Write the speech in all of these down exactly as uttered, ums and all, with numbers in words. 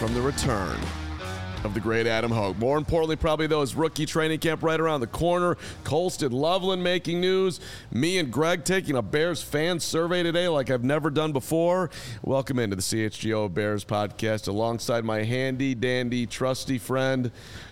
from the return of the great Adam Hogue. More importantly, probably though, is rookie training camp right around the corner. Colston Loveland making news. Me and Greg taking a Bears fan survey today like I've never done before. Welcome into the C H G O Bears podcast alongside my handy dandy trusty friend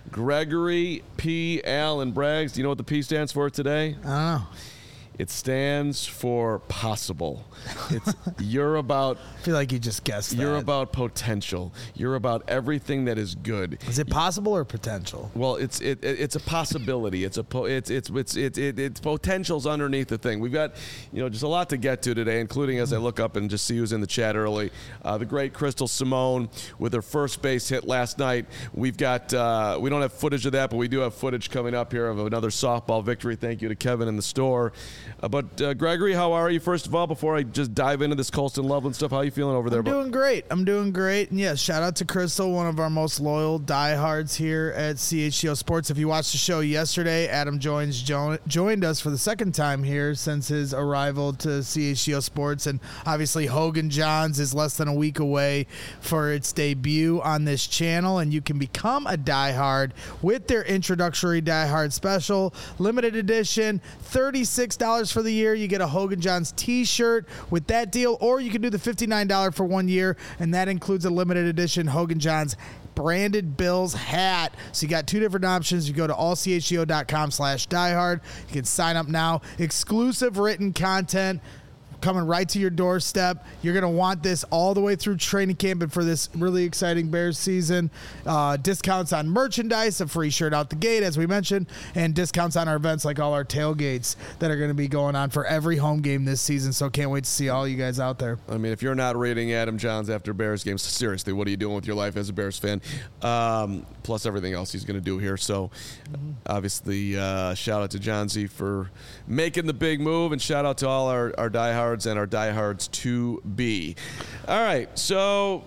Gregory P. Allen Braggs. Do you know what the P stands for today? I don't know. It stands for possible. It's you're about. I feel like you just guessed that. You're about potential. You're about everything that is good. Is it possible or potential? Well, it's it, it it's a possibility. It's a po- it's it's it's it's it, it's potential's underneath the thing. We've got you know just a lot to get to today, including as I look up and just see who's in the chat early. Uh, the great Crystal Simone with her first base hit last night. We've got uh, we don't have footage of that, but we do have footage coming up here of another softball victory. Thank you to Kevin in the store. Uh, but uh, Gregory, how are you? First of all, before I just dive into this Colston Loveland stuff, how are you feeling over there? I'm doing great. I'm doing great. And yes, shout out to Crystal, one of our most loyal diehards here at C H G O Sports. If you watched the show yesterday, Adam joins jo- joined us for the second time here since his arrival to C H G O Sports. And obviously, Hogan Johns is less than a week away for its debut on this channel. And you can become a diehard with their introductory diehard special, limited edition, thirty-six dollars for the year. You get a Hogan Johns t-shirt with that deal, or you can do the fifty-nine dollars for one year, and that includes a limited edition Hogan Johns branded Bills hat. So you got two different options. You go to all c h g o dot com slash diehard. You can sign up now. Exclusive written content coming right to your doorstep. You're going to want this all the way through training camp and for this really exciting Bears season. Uh, discounts on merchandise, a free shirt out the gate, as we mentioned, and discounts on our events like all our tailgates that are going to be going on for every home game this season. So can't wait to see all you guys out there. I mean, if you're not rating Adam Johns after Bears games, seriously, what are you doing with your life as a Bears fan? Um, plus everything else he's going to do here. So mm-hmm. obviously, uh, shout out to Johnsy for making the big move, and shout out to all our, our diehards and our diehards to be. All right, so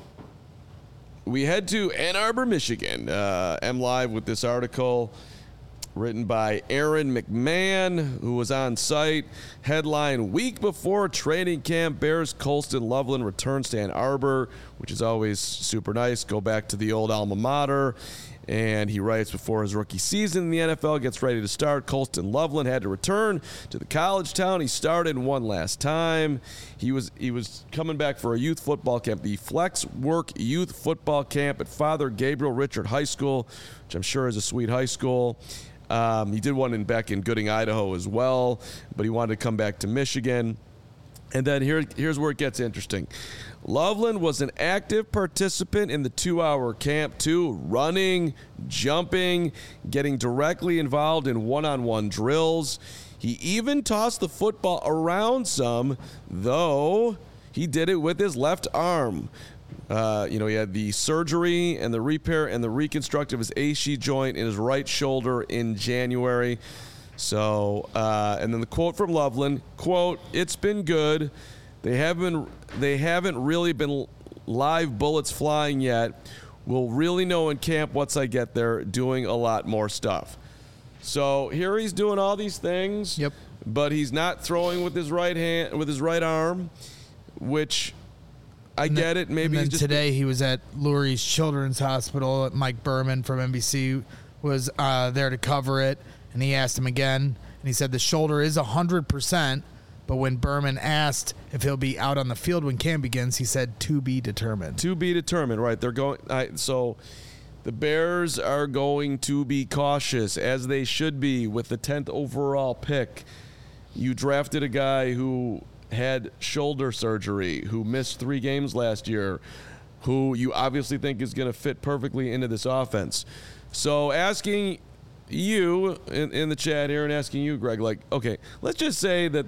we head to Ann Arbor, Michigan. Uh, I'm live with this article written by Aaron McMahon, who was on site. Headline: week before training camp, Bears Colston Loveland returns to Ann Arbor, which is always super nice. Go back to the old alma mater. And he writes, before his rookie season in the N F L gets ready to start, Colston Loveland had to return to the college town he started one last time. He was he was coming back for a youth football camp, the Flex Work Youth Football Camp at Father Gabriel Richard High School, which I'm sure is a sweet high school. Um, he did one in back in Gooding, Idaho as well, but he wanted to come back to Michigan. And then here, here's where it gets interesting. Loveland was an active participant in the two-hour camp, too, running, jumping, getting directly involved in one-on-one drills. He even tossed the football around some, though he did it with his left arm. Uh, you know, he had the surgery and the repair and the reconstruct of his A C joint in his right shoulder in January. So, uh, and then the quote from Loveland, quote, "It's been good. They haven't, they haven't really been live bullets flying yet. We'll really know in camp once I get there, doing a lot more stuff." So here he's doing all these things, yep. but he's not throwing with his right hand, with his right arm, which I and get then, it. Maybe and then he's just today he was at Lurie's Children's Hospital. Mike Berman from N B C was uh, there to cover it. And he asked him again, and he said the shoulder is one hundred percent, but when Berman asked if he'll be out on the field when camp begins, he said to be determined. To be determined, right. They're going. I, so the Bears are going to be cautious, as they should be, with the tenth overall pick. You drafted a guy who had shoulder surgery, who missed three games last year, who you obviously think is going to fit perfectly into this offense. So asking you in, in the chat here and asking you, Greg, like, okay, let's just say that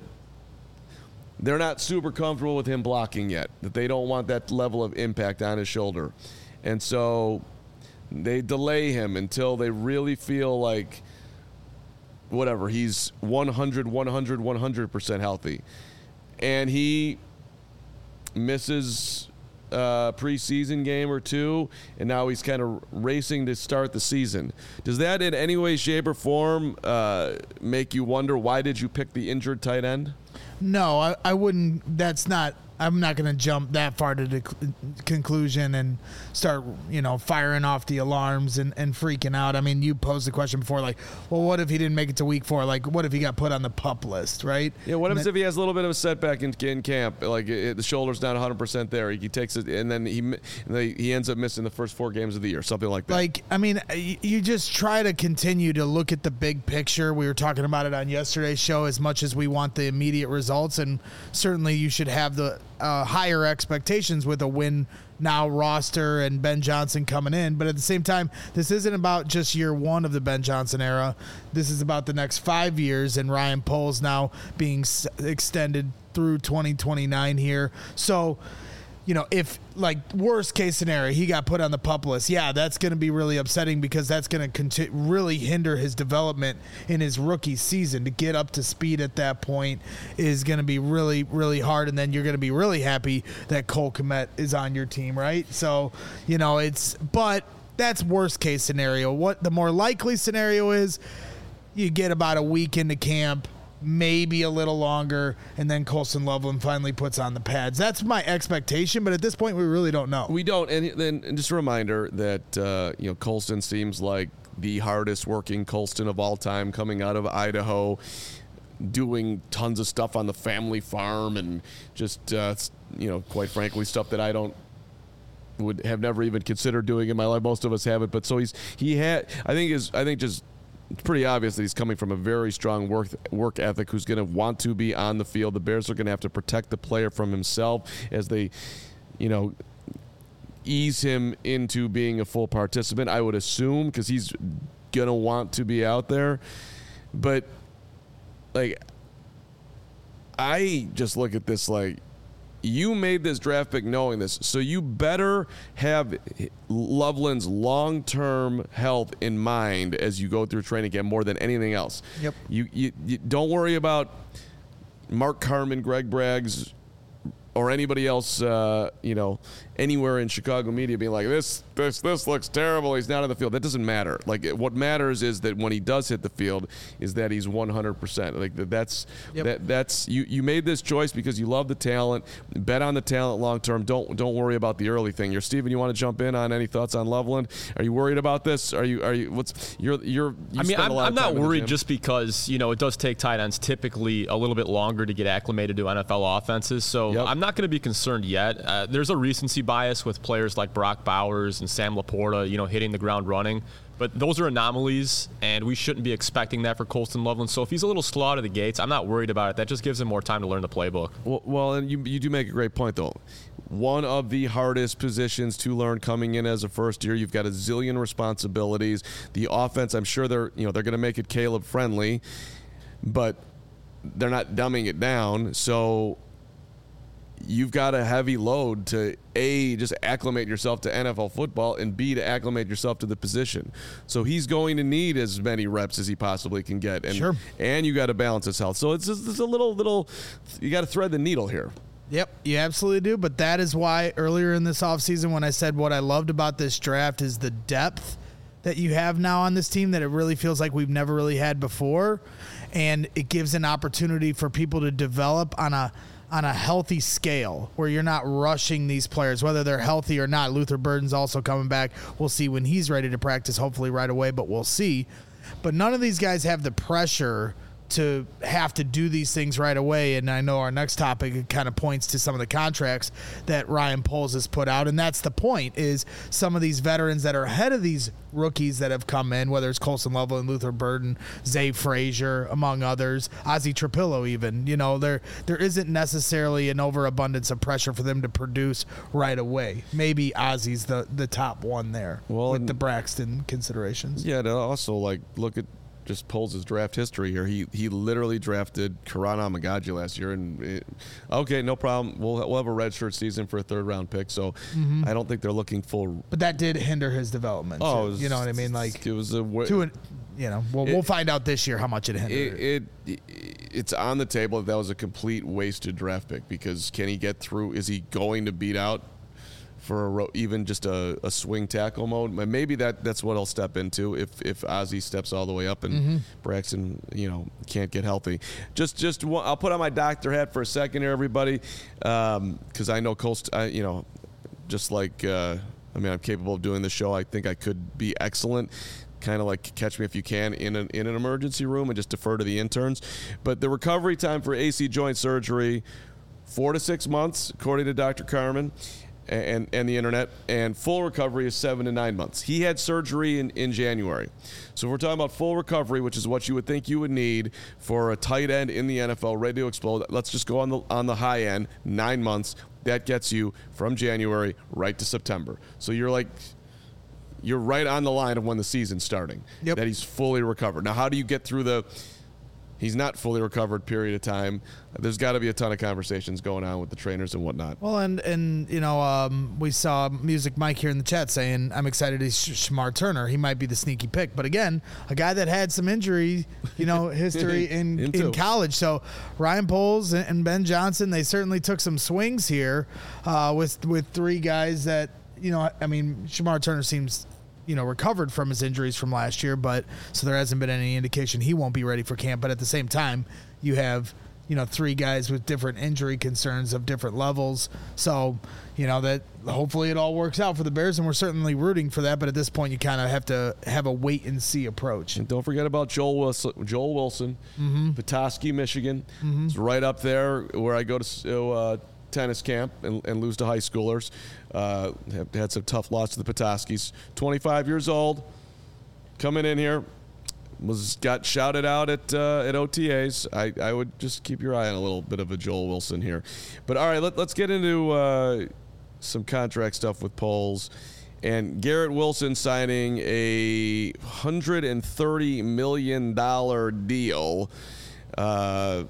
they're not super comfortable with him blocking yet, that they don't want that level of impact on his shoulder. And so they delay him until they really feel like, whatever, he's one hundred, one hundred, one hundred percent healthy. And he misses Uh, preseason game or two, and now he's kind of racing to start the season. Does that in any way, shape, or form uh, make you wonder, why did you pick the injured tight end? No, I, I wouldn't. That's not I'm not going to jump that far to the c- conclusion and start, you know, firing off the alarms and, and freaking out. I mean, you posed the question before, like, well, what if he didn't make it to week four? Like, what if he got put on the PUP list, right? Yeah, what And happens that- if he has a little bit of a setback in, in camp? Like, it, the shoulder's not one hundred percent there. He takes it, and then he and they, he ends up missing the first four games of the year, something like that. Like, I mean, y- you just try to continue to look at the big picture. We were talking about it on yesterday's show as much as we want the immediate results, and certainly you should have the uh, higher expectations with a win now roster and Ben Johnson coming in. But at the same time, this isn't about just year one of the Ben Johnson era. This is about the next five years, and Ryan Poles now being s- extended through twenty twenty-nine here. So, you know, if, like, worst case scenario, he got put on the PUP list, yeah, that's going to be really upsetting because that's going to conti- really hinder his development in his rookie season. To get up to speed at that point is going to be really, really hard, and then you're going to be really happy that Cole Kmet is on your team, right? So, you know, it's – but that's worst case scenario. What the more likely scenario is, you get about a week into camp, maybe a little longer, and then Colston Loveland finally puts on the pads. That's my expectation, but at this point, we really don't know. We don't, and then and just a reminder that uh, you know Colston seems like the hardest working Colston of all time, coming out of Idaho, doing tons of stuff on the family farm, and just uh, you know, quite frankly, stuff that I don't would have never even considered doing in my life. Most of us haven't, but so he's he had. I think is I think just. It's pretty obvious that he's coming from a very strong work work ethic, who's going to want to be on the field. The Bears are going to have to protect the player from himself as they, you know, ease him into being a full participant, I would assume, because he's going to want to be out there. But, like, I just look at this like, you made this draft pick knowing this, so you better have Loveland's long-term health in mind as you go through training camp more than anything else. Yep. You, you, you don't worry about Mark Carman, Greg Braggs, or anybody else, uh, you know, anywhere in Chicago media being like, this, this, this looks terrible. He's not on the field. That doesn't matter. Like, what matters is that when he does hit the field, is that he's one hundred percent. Like, that's Yep. that. That's you. You made this choice because you love the talent. Bet on the talent long term. Don't don't worry about the early thing. You're Steven. You want to jump in on any thoughts on Loveland? Are you worried about this? Are you? Are you? What's you're you're? You I mean, spend a I'm, lot I'm of time not in the worried gym. just because, you know, it does take tight ends typically a little bit longer to get acclimated to N F L offenses. So Yep. I'm not going to be concerned yet. Uh, there's a recency bias with players like Brock Bowers and Sam Laporta, you know, hitting the ground running. But those are anomalies, and we shouldn't be expecting that for Colston Loveland. So if he's a little slow out of the gates, I'm not worried about it. That just gives him more time to learn the playbook. Well, well, and you you do make a great point, though. One of the hardest positions to learn coming in as a first year. You've got a zillion responsibilities. The offense, I'm sure they're you know they're going to make it Caleb friendly, but they're not dumbing it down. So you've got a heavy load to A, just acclimate yourself to N F L football, and B, to acclimate yourself to the position. So he's going to need as many reps as he possibly can get. And, Sure. And you got to balance his health. So it's just it's a little, little, you got to thread the needle here. Yep, you absolutely do. But that is why earlier in this offseason when I said what I loved about this draft is the depth that you have now on this team, that it really feels like we've never really had before. And it gives an opportunity for people to develop on a on a healthy scale where you're not rushing these players, whether they're healthy or not. Luther Burden's also coming back. We'll see when he's ready to practice, hopefully right away, but we'll see. But none of these guys have the pressure to have to do these things right away. And I know our next topic kind of points to some of the contracts that Ryan Poles has put out. And that's the point, is some of these veterans that are ahead of these rookies that have come in, whether it's Colston Loveland, Luther Burden, Zay Frazier, among others, Ozzie Trapillo even, you know, there there isn't necessarily an overabundance of pressure for them to produce right away. Maybe Ozzie's the, the top one there Well, with and- the Braxton considerations. Yeah, and also, like, look at just Poles' draft history here. He he literally drafted Karan Amagaji last year, and it, okay, no problem. We'll we'll have a redshirt season for a third round pick. So I don't think they're looking full. But that did hinder his development. Oh, too. it was- you know what I mean? Like, it was a wa- to an, you know, we'll, It- we'll find out this year how much it hindered. It, it it's on the table that that was a complete wasted draft pick, because can he get through? Is he going to beat out for a ro- even just a, a swing tackle mode. Maybe that that's what I'll step into if if Ozzie steps all the way up and mm-hmm. Braxton, you know, can't get healthy. Just just one, I'll put on my doctor hat for a second here, everybody, because um, I know Colst, I, you know, just like uh, I mean, I'm capable of doing the show. I think I could be excellent. Kind of like Catch Me If You Can in an in an emergency room and just defer to the interns. But the recovery time for A C joint surgery, four to six months, according to Doctor Carmen and, and the internet, and full recovery is seven to nine months. He had surgery in, in January. So if we're talking about full recovery, which is what you would think you would need for a tight end in the N F L ready to explode, let's just go on the on the high end, nine months. That gets you from January right to September. So you're like, you're right on the line of when the season's starting, yep. that he's fully recovered. Now, how do you get through the he's not fully recovered period of time? There's got to be a ton of conversations going on with the trainers and whatnot. Well, and, and you know, um, we saw Music Mike here in the chat saying, I'm excited he's Shemar Turner. He might be the sneaky pick. But again, a guy that had some injury, you know, history in, in college. So Ryan Poles and Ben Johnson, they certainly took some swings here uh, with, with three guys that, you know, I mean, Shemar Turner seems, you know, recovered from his injuries from last year, but so there hasn't been any indication he won't be ready for camp. But at the same time, you have, you know, three guys with different injury concerns of different levels. So, you know, that hopefully it all works out for the Bears, and we're certainly rooting for that. But at this point, you kind of have to have a wait and see approach. And don't forget about Joel Wilson, Joel Wilson, mm-hmm. Petoskey, Michigan. Mm-hmm. It's right up there where I go to uh, tennis camp and, and lose to high schoolers. Uh, have had some tough loss to the Petoskey's. twenty-five years old, coming in here, was got shouted out at uh, at O T As. I, I would just keep your eye on a little bit of a Joel Wilson here. But all right, let, let's get into uh, some contract stuff with Poles. And Garrett Wilson signing a one hundred thirty million dollars deal, uh,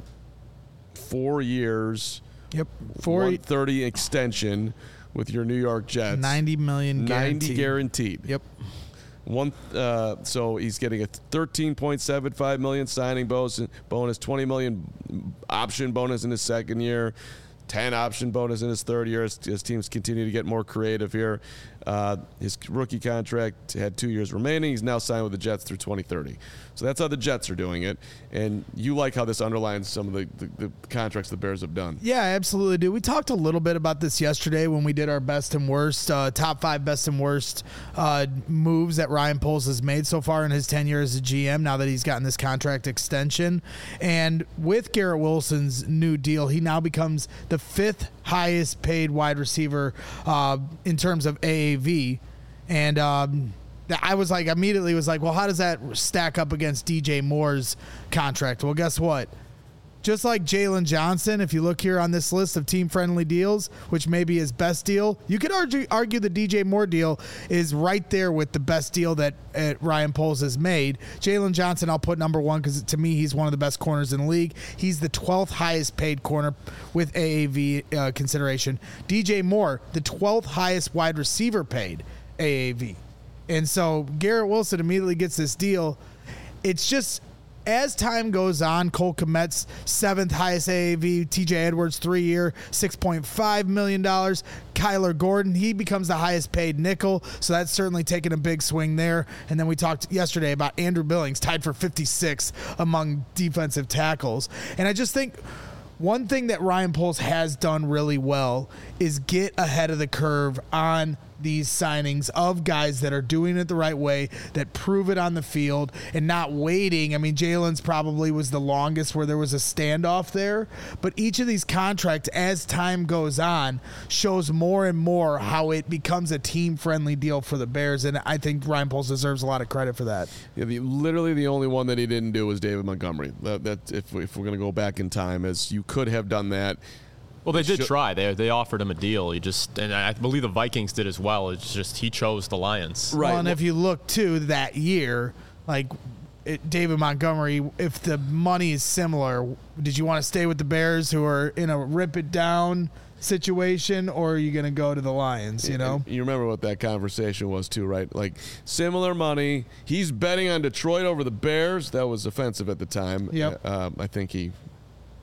four years. Yep, four one thirty extension with your New York Jets. ninety million guaranteed. ninety guaranteed. Yep. One. Uh, so he's getting a thirteen point seven five million signing bonus, bonus, twenty million option bonus in his second year, ten option bonus in his third year. As, as teams continue to get more creative here, uh, his rookie contract had two years remaining. He's now signed with the Jets through twenty thirty. So that's how the Jets are doing it. And you like how this underlines some of the, the, the contracts the Bears have done. Yeah, I absolutely do. We talked a little bit about this yesterday when we did our best and worst, uh, top five best and worst uh, moves that Ryan Poles has made so far in his tenure as a G M, now that he's gotten this contract extension. And with Garrett Wilson's new deal, he now becomes the fifth highest paid wide receiver uh, in terms of A A V. And um, I was like, immediately was like, well, how does that stack up against D J Moore's contract? Well, guess what? Just like Jalen Johnson, if you look here on this list of team-friendly deals, which may be his best deal, you could argue, argue the D J Moore deal is right there with the best deal that uh, Ryan Poles has made. Jalen Johnson, I'll put number one because to me, he's one of the best corners in the league. He's the twelfth highest paid corner with A A V uh, consideration. D J Moore, the twelfth highest wide receiver paid A A V. And so Garrett Wilson immediately gets this deal. It's just, as time goes on, Cole Kmet's seventh highest A A V, T J Edwards three-year, six point five million dollars. Kyler Gordon, he becomes the highest paid nickel, so that's certainly taken a big swing there. And then we talked yesterday about Andrew Billings, tied for fifty-sixth among defensive tackles. And I just think one thing that Ryan Poles has done really well is get ahead of the curve on these signings of guys that are doing it the right way, that prove it on the field and not waiting. I mean, Jalen's probably was the longest where there was a standoff there, but each of these contracts, as time goes on, shows more and more how it becomes a team-friendly deal for the Bears, and I think Ryan Poles deserves a lot of credit for that. Yeah, the, literally the only one that he didn't do was David Montgomery. That, that if, if we're going to go back in time, as you could have done that. Well, they did try. They they offered him a deal. He just, and I believe the Vikings did as well. It's just he chose the Lions. Right. Well, and if you look too that year, like it, David Montgomery, if the money is similar, did you want to stay with the Bears, who are in a rip it down situation, or are you going to go to the Lions? You know. You remember what that conversation was too, right? Like similar money. He's betting on Detroit over the Bears. That was offensive at the time. Yep. Um, I think he.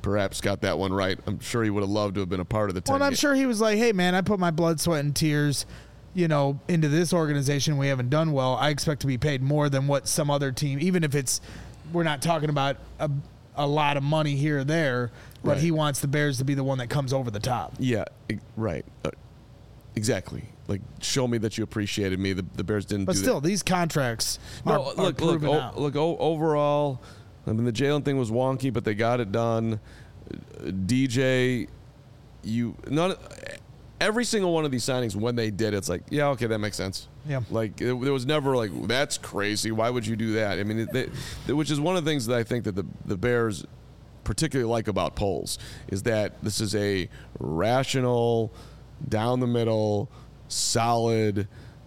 perhaps got that one right. I'm sure he would have loved to have been a part of the team. Well, I'm sure he was like, hey, man, I put my blood, sweat, and tears, you know, into this organization. We haven't done well. I expect to be paid more than what some other team, even if it's, we're not talking about a, a lot of money here or there, but right. he wants the Bears to be the one that comes over the top. Yeah, right. Uh, exactly. Like, show me that you appreciated me. The, the Bears didn't but do still, that. these contracts no, are, look, are look, proven o- out. look, o- overall, I mean, the Jalen thing was wonky, but they got it done. D J, you not every single one of these signings when they did, it's like, yeah, okay, that makes sense. Yeah, like it, there was never like that's crazy. Why would you do that? I mean, it, they, it, which is one of the things that I think that the the Bears particularly like about Poles is that this is a rational, down the middle, solid.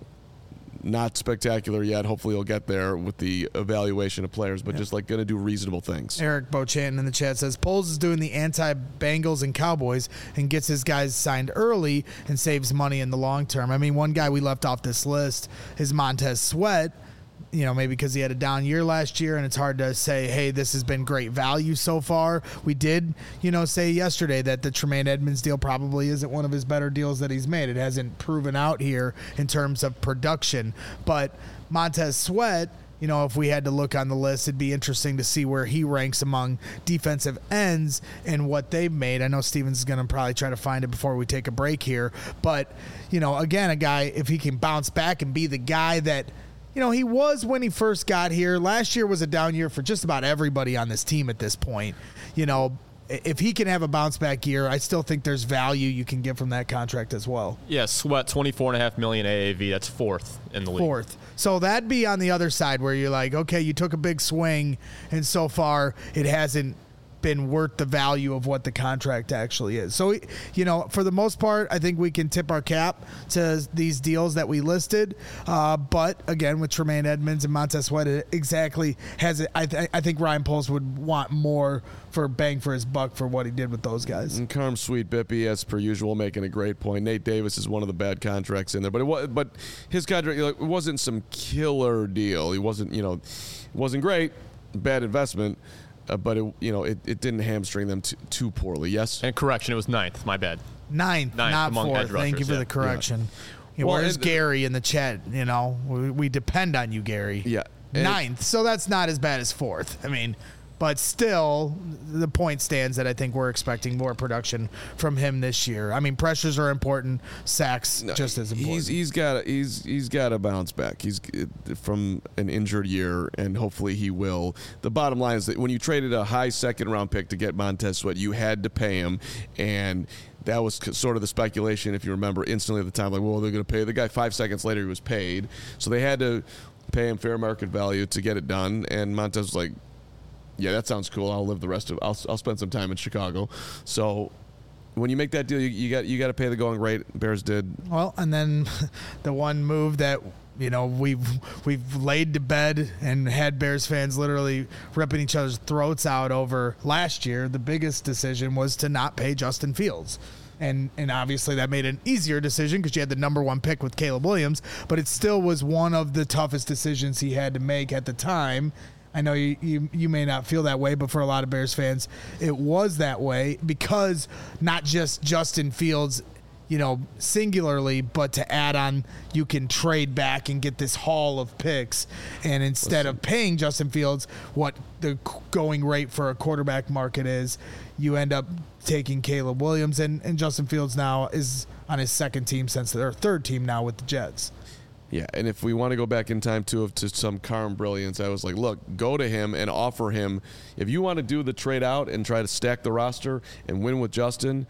Not spectacular yet. Hopefully he'll get there with the evaluation of players, but yeah. just like going to do reasonable things. Eric Bochanton in the chat says, Poles is doing the anti-Bengals and Cowboys and gets his guys signed early and saves money in the long term. I mean, one guy we left off this list is Montez Sweat, you know, maybe because he had a down year last year and it's hard to say, hey, this has been great value so far. We did, you know, say yesterday that the Tremaine Edmonds deal probably isn't one of his better deals that he's made. It hasn't proven out here in terms of production. But Montez Sweat, you know, if we had to look on the list, it'd be interesting to see where he ranks among defensive ends and what they've made. I know Stevens is going to probably try to find it before we take a break here. But, you know, again, a guy, if he can bounce back and be the guy that, you know, he was when he first got here. Last year was a down year for just about everybody on this team at this point. You know, if he can have a bounce back year, I still think there's value you can get from that contract as well. Yeah, Sweat, twenty-four point five million dollars A A V. That's fourth in the league. Fourth. So that'd be on the other side where you're like, okay, you took a big swing, and so far it hasn't been worth the value of what the contract actually is. So, you know, for the most part, I think we can tip our cap to these deals that we listed. Uh, but again, with Tremaine Edmonds and Montez Sweat, it exactly has it. I, th- I think Ryan Poles would want more for bang for his buck for what he did with those guys. And Carm Sweet Bippy, as per usual, making a great point. Nate Davis is one of the bad contracts in there, but it was, but his contract, it wasn't some killer deal. He wasn't, you know, it wasn't great, bad investment. Uh, but it, you know, it, it didn't hamstring them t- too poorly. Yes. And correction, it was ninth. My bad. Ninth, ninth not among fourth. edge rushers, Thank you for yeah. the correction. Yeah. You know, Well, where's and- Gary in the chat? You know, we, we depend on you, Gary. Yeah. And- Ninth, so that's not as bad as fourth. I mean, but still, the point stands that I think we're expecting more production from him this year. I mean, pressures are important, sacks No, just as important. He's he's got he's he's got to bounce back. He's from an injured year, and hopefully he will. The bottom line is that when you traded a high second round pick to get Montez Sweat, you had to pay him, and that was sort of the speculation, if you remember, instantly at the time. Like, well, they're going to pay the guy. Five seconds later, he was paid, so they had to pay him fair market value to get it done. And Montez was like, yeah, that sounds cool. I'll live the rest of. I'll I'll spend some time in Chicago. So when you make that deal, you, you got you got to pay the going rate. Bears did. Well, and then the one move that, you know, we've we've laid to bed and had Bears fans literally ripping each other's throats out over last year. The biggest decision was to not pay Justin Fields. And and obviously that made an easier decision because you had the number one pick with Caleb Williams, but it still was one of the toughest decisions he had to make at the time. I know you, you you may not feel that way, but for a lot of Bears fans, it was that way because not just Justin Fields, you know, singularly, but to add on, you can trade back and get this haul of picks. And instead of paying Justin Fields what the going rate for a quarterback market is, you end up taking Caleb Williams. And, and Justin Fields now is on his second team since their third team now with the Jets. Yeah, and if we want to go back in time too to some Carm brilliance, I was like, look, go to him and offer him. If you want to do the trade out and try to stack the roster and win with Justin,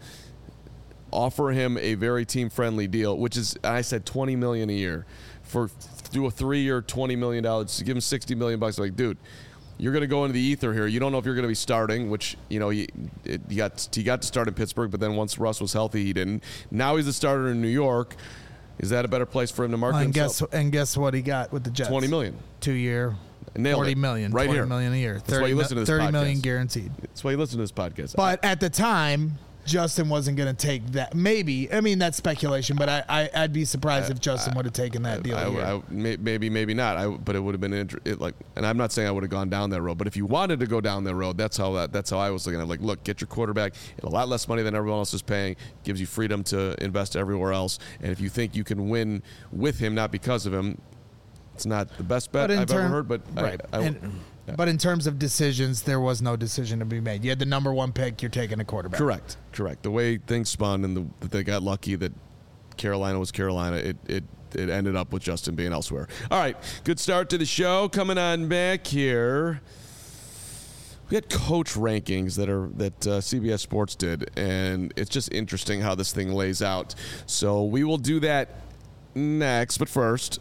offer him a very team-friendly deal, which is, I said, twenty million dollars a year for do a three-year, twenty million dollars. Give him sixty million bucks. Like, dude, you're going to go into the ether here. You don't know if you're going to be starting, which, you know, he, it, he got he got to start in Pittsburgh, but then once Russ was healthy, he didn't. Now he's a starter in New York. Is that a better place for him to market Well, and himself? guess and guess what he got with the Jets? twenty million. Two year, Nailed forty it. million, Right twenty here. million a year. That's why you listen to this thirty podcast. million guaranteed. That's why you listen to this podcast. But at the time, Justin wasn't going to take that. Maybe. I mean, that's speculation, but I, I, I'd be surprised I, if Justin would have taken that deal. I, I, I, maybe, maybe not. I, but it would have been inter- it like. And I'm not saying I would have gone down that road, but if you wanted to go down that road, that's how that, that's how I was looking at it. Like, look, get your quarterback at a lot less money than everyone else is paying, gives you freedom to invest everywhere else. And if you think you can win with him, not because of him, it's not the best bet I've term, ever heard. But right. I, I, and, yeah. But in terms of decisions, there was no decision to be made. You had the number one pick. You're taking a quarterback. Correct. Correct. The way things spun and the, that they got lucky that Carolina was Carolina, it, it it ended up with Justin being elsewhere. All right. Good start to the show. Coming on back here. We had coach rankings that are that uh, C B S Sports did, and it's just interesting how this thing lays out. So we will do that next, but first.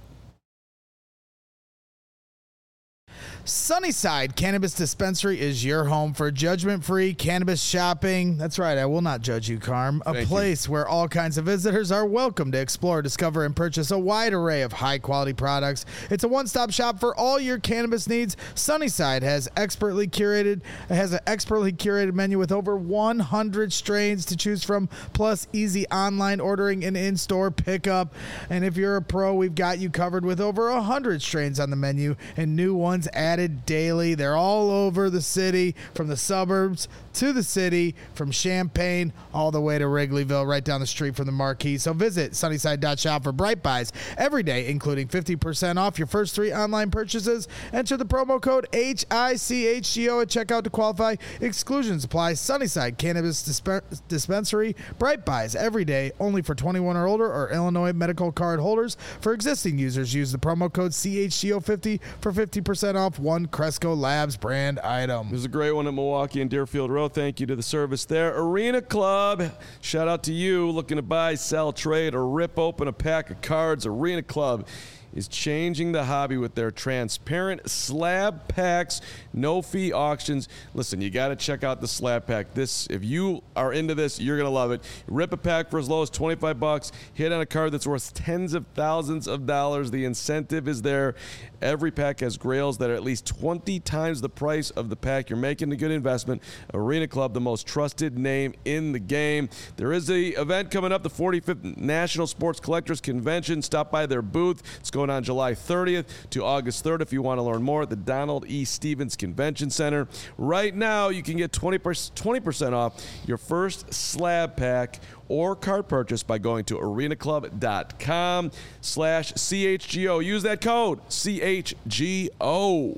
Sunnyside Cannabis Dispensary is your home for judgment-free cannabis shopping. That's right, I will not judge you, Carm. A Thank place you. where all kinds of visitors are welcome to explore, discover, and purchase a wide array of high-quality products. It's a one-stop shop for all your cannabis needs. Sunnyside has expertly curated has an expertly curated menu with over one hundred strains to choose from, plus easy online ordering and in-store pickup. And if you're a pro, we've got you covered with over one hundred strains on the menu and new ones added daily. They're all over the city, from the suburbs to the city, from Champaign all the way to Wrigleyville, right down the street from the Marquee. So visit sunnyside dot shop for Bright Buys every day, including fifty percent off your first three online purchases. Enter the promo code H I C H G O at checkout to qualify. Exclusions apply. Sunnyside Cannabis Disp- Dispensary. Bright Buys every day, only for twenty-one or older or Illinois medical card holders. For existing users, use the promo code C H G O fifty for fifty percent off one Cresco Labs brand item. There's a great one at Milwaukee and Deerfield Road. Thank you to the service there. Arena Club, shout out to you. Looking to buy, sell, trade, or rip open a pack of cards. Arena Club is changing the hobby with their transparent slab packs, no-fee auctions. Listen, you got to check out the slab pack. This, if you are into this, you're going to love it. Rip a pack for as low as twenty-five bucks. Hit on a card that's worth tens of thousands of dollars. The incentive is there. Every pack has grails that are at least twenty times the price of the pack. You're making a good investment. Arena Club, the most trusted name in the game. There is an event coming up, the forty-fifth National Sports Collectors Convention. Stop by their booth. It's going on July thirtieth to August third if you want to learn more at the Donald E. Stevens Convention Center. Right now, you can get twenty percent off your first slab pack or card purchase by going to arenaclub.com slash CHGO. Use that code, C H G O.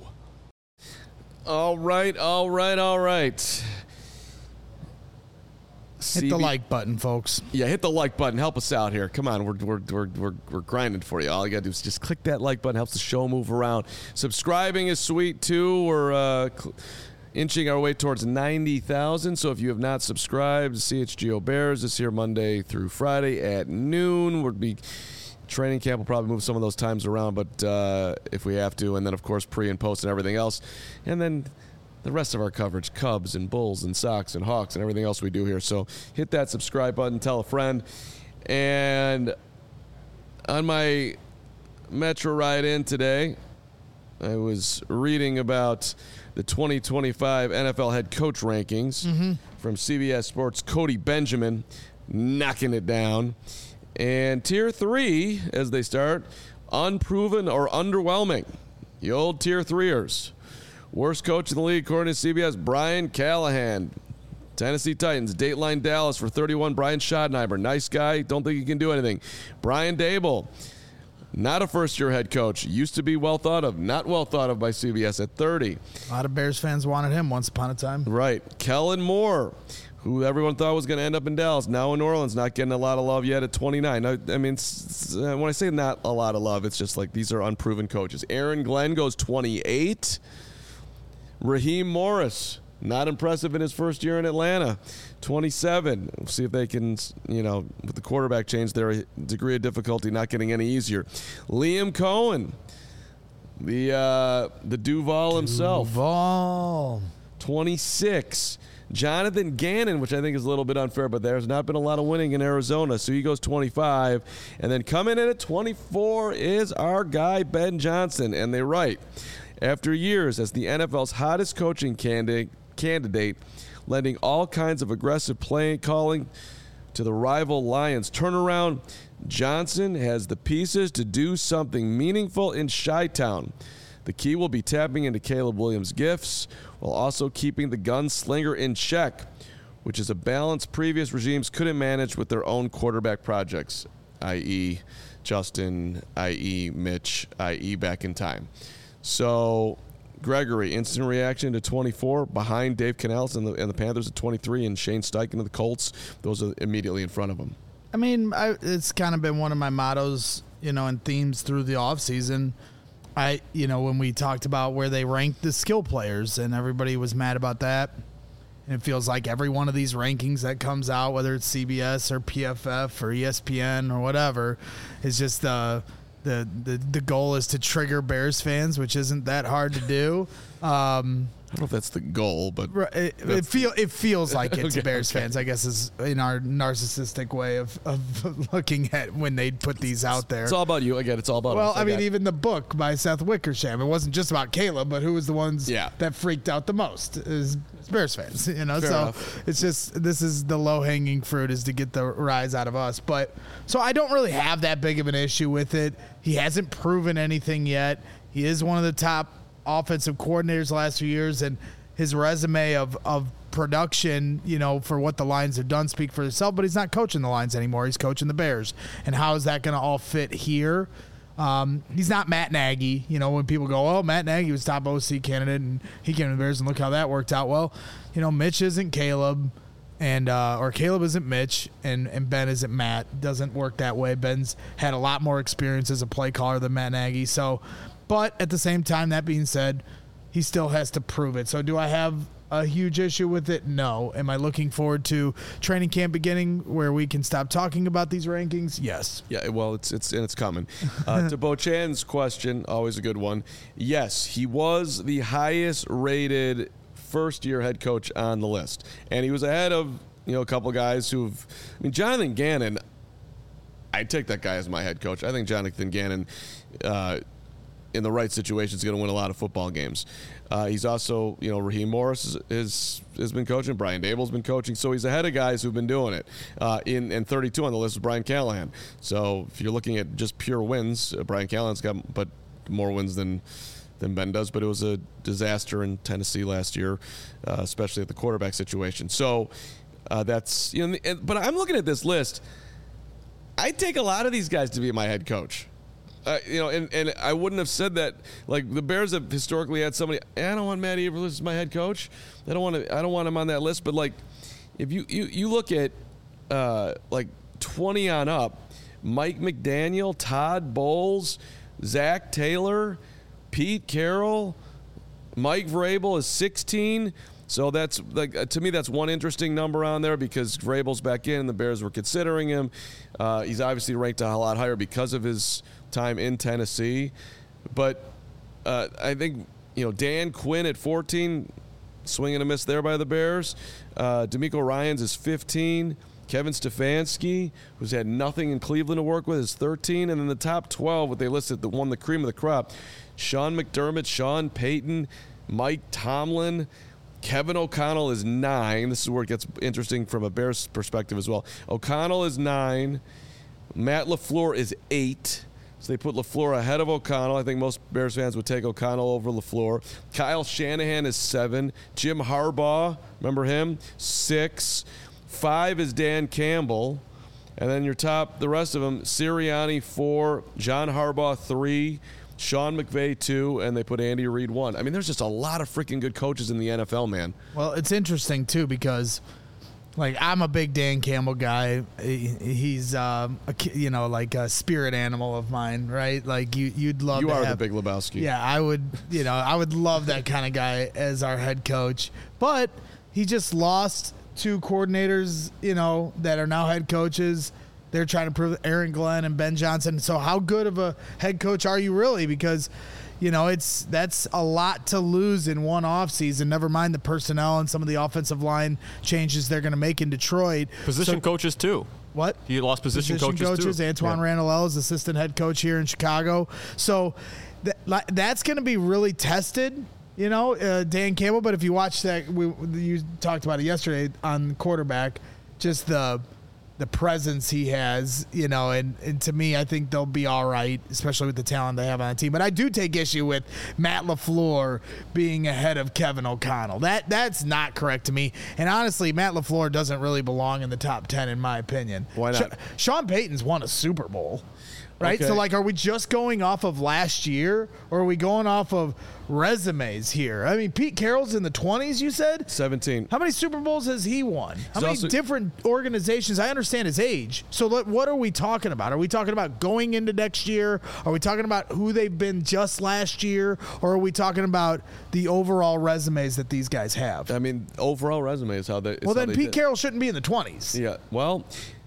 All right, all right, all right. Hit C B- the like button, folks. Yeah, hit the like button. Help us out here. Come on, we're we're we're we're, we're grinding for you. All you gotta do is just click that like button. Helps the show move around. Subscribing is sweet too. We're uh, cl- inching our way towards ninety thousand. So if you have not subscribed, C H G O Bears is here Monday through Friday at noon. We'll be training camp will probably move some of those times around, but uh, if we have to, and then of course pre and post and everything else, and then the rest of our coverage, Cubs and Bulls and Sox and Hawks and everything else we do here. So hit that subscribe button, tell a friend. And on my Metro ride in today, I was reading about the twenty twenty-five N F L head coach rankings mm-hmm. from C B S Sports' Cody Benjamin, knocking it down. And tier three, as they start, unproven or underwhelming. The old tier threeers. Worst coach in the league, according to C B S, Brian Callahan. Tennessee Titans, Dateline Dallas for thirty-one, Brian Schottenheimer. Nice guy, don't think he can do anything. Brian Dable, not a first-year head coach. Used to be well thought of, not well thought of by C B S at thirty. A lot of Bears fans wanted him once upon a time. Right. Kellen Moore, who everyone thought was going to end up in Dallas, now in New Orleans, not getting a lot of love yet at twenty-nine. I, I mean, it's, uh, when I say not a lot of love, it's just like these are unproven coaches. Aaron Glenn goes twenty-eight. Raheem Morris, not impressive in his first year in Atlanta, twenty-seven. We'll see if they can, you know, with the quarterback change, their degree of difficulty not getting any easier. Liam Cohen, the uh, the Duval himself. Duval. twenty-six. Jonathan Gannon, which I think is a little bit unfair, but there's not been a lot of winning in Arizona, so he goes twenty-five. And then coming in at twenty-four is our guy, Ben Johnson. And they're right. After years as the N F L's hottest coaching candidate, candidate, lending all kinds of aggressive play calling to the rival Lions turnaround. Johnson has the pieces to do something meaningful in Chi-Town. The key will be tapping into Caleb Williams' gifts while also keeping the gunslinger in check, which is a balance previous regimes couldn't manage with their own quarterback projects, that is. Justin, that is. Mitch, that is back in time. So, Gregory, instant reaction to twenty-four, behind Dave Canales and the, and the Panthers at twenty-three, and Shane Steichen of the Colts. Those are immediately in front of him. I mean, I, it's kind of been one of my mottos, you know, and themes through the offseason. I, you know, when we talked about where they ranked the skill players, and everybody was mad about that. And it feels like every one of these rankings that comes out, whether it's C B S or P F F or E S P N or whatever, is just uh, the the the goal is to trigger Bears fans, which isn't that hard to do. Um, I don't know if that's the goal, but it, it feel it feels like it to Okay, Bears okay. fans, I guess, is in our narcissistic way of, of looking at when they put these out there. it's all about you. Again, it's all about Well, us. I mean, got- even the book by Seth Wickersham, it wasn't just about Caleb, but who was the ones Yeah. that freaked out the most is Bears fans, you know. Fair so enough. it's just this is the low hanging fruit is to get the rise out of us. But so I don't really have that big of an issue with it. He hasn't proven anything yet. He is one of the top offensive coordinators the last few years, and his resume of of production, you know, for what the Lions have done speak for itself, but he's not coaching the Lions anymore. He's coaching the Bears. And how is that going to all fit here? Um, he's not Matt Nagy. You know, when people go, oh, Matt Nagy was top O C candidate and he came to the Bears and look how that worked out. Well, you know, Mitch isn't Caleb and uh, or Caleb isn't Mitch and, and Ben isn't Matt. Doesn't work that way. Ben's had a lot more experience as a play caller than Matt Nagy. So, but at the same time, that being said, he still has to prove it. So do I have a huge issue with it? No. Am I looking forward to training camp beginning where we can stop talking about these rankings? Yes. Yeah, well, it's it's and it's coming. Uh, to Bo Chan's question, always a good one. Yes, he was the highest rated first year head coach on the list, and he was ahead of you know a couple guys who've. I mean, Jonathan Gannon. I'd take that guy as my head coach. I think Jonathan Gannon, uh, in the right situation, is going to win a lot of football games. Uh, he's also, you know, Raheem Morris is, is has been coaching. Brian Dable's been coaching, so he's ahead of guys who've been doing it. Uh, in and thirty-two on the list is Brian Callahan. So if you're looking at just pure wins, uh, Brian Callahan's got but more wins than than Ben does. But it was a disaster in Tennessee last year, uh, especially at the quarterback situation. So uh, that's you know. And, but I'm looking at this list. I'd take a lot of these guys to be my head coach. Uh, you know, and, and I wouldn't have said that. Like the Bears have historically had somebody. I don't want Matt Eberflus as my head coach. I don't want to. I don't want him on that list. But like, if you you, you look at uh, like twenty on up, Mike McDaniel, Todd Bowles, Zach Taylor, Pete Carroll, Mike Vrabel is sixteen. So that's like uh, to me that's one interesting number on there because Vrabel's back in and the Bears were considering him. Uh, he's obviously ranked a lot higher because of his time in Tennessee. But uh, I think you know Dan Quinn at fourteen, swing and a miss there by the Bears. Uh, D'Amico Ryans is fifteen. Kevin Stefanski, who's had nothing in Cleveland to work with, is thirteen. And then the top twelve, what they listed, the one the cream of the crop, Sean McDermott, Sean Payton, Mike Tomlin. Kevin O'Connell is nine. This is where it gets interesting from a Bears perspective as well. O'Connell is nine. Matt LaFleur is eight. So they put LaFleur ahead of O'Connell. I think most Bears fans would take O'Connell over LaFleur. Kyle Shanahan is seven. Jim Harbaugh, remember him? Six. Five is Dan Campbell. And then your top, the rest of them, Sirianni, four. John Harbaugh, three. Sean McVay, two, and they put Andy Reid, one. I mean, there's just a lot of freaking good coaches in the N F L, man. Well, it's interesting, too, because, like, I'm a big Dan Campbell guy. He, he's, um, a, ki- you know, like a spirit animal of mine, right? Like, you, you'd love You to are have, the Big Lebowski. Yeah, I would, you know, I would love that kind of guy as our head coach. But he just lost two coordinators, you know, that are now head coaches. They're trying to prove Aaron Glenn and Ben Johnson. So how good of a head coach are you really? Because, you know, it's that's a lot to lose in one offseason, never mind the personnel and some of the offensive line changes they're going to make in Detroit. Position So- coaches, too. What? He lost position, Position coaches, coaches. too. Antoine Yeah. Randall is assistant head coach here in Chicago. So th- like, that's going to be really tested you know, uh, Dan Campbell. But if you watch that, we you talked about it yesterday on quarterback, just the the presence he has, you know, and, and to me, I think they'll be all right, especially with the talent they have on the team. But I do take issue with Matt LaFleur being ahead of Kevin O'Connell. That That's not correct to me. And honestly, Matt LaFleur doesn't really belong in the top ten, in my opinion. Why not? Sh- Sean Payton's won a Super Bowl. Right? Okay. So, like, are we just going off of last year, or are we going off of resumes here? I mean, Pete Carroll's in the twenties, you said? seventeen. How many Super Bowls has he won? How He's many also- different organizations? I understand his age. So, let, what are we talking about? Are we talking about going into next year? Are we talking about who they've been just last year? Or are we talking about the overall resumes that these guys have? I mean, overall resume is how they. is Well, how then they Pete did. Carroll shouldn't be in the twenties. Yeah. Well,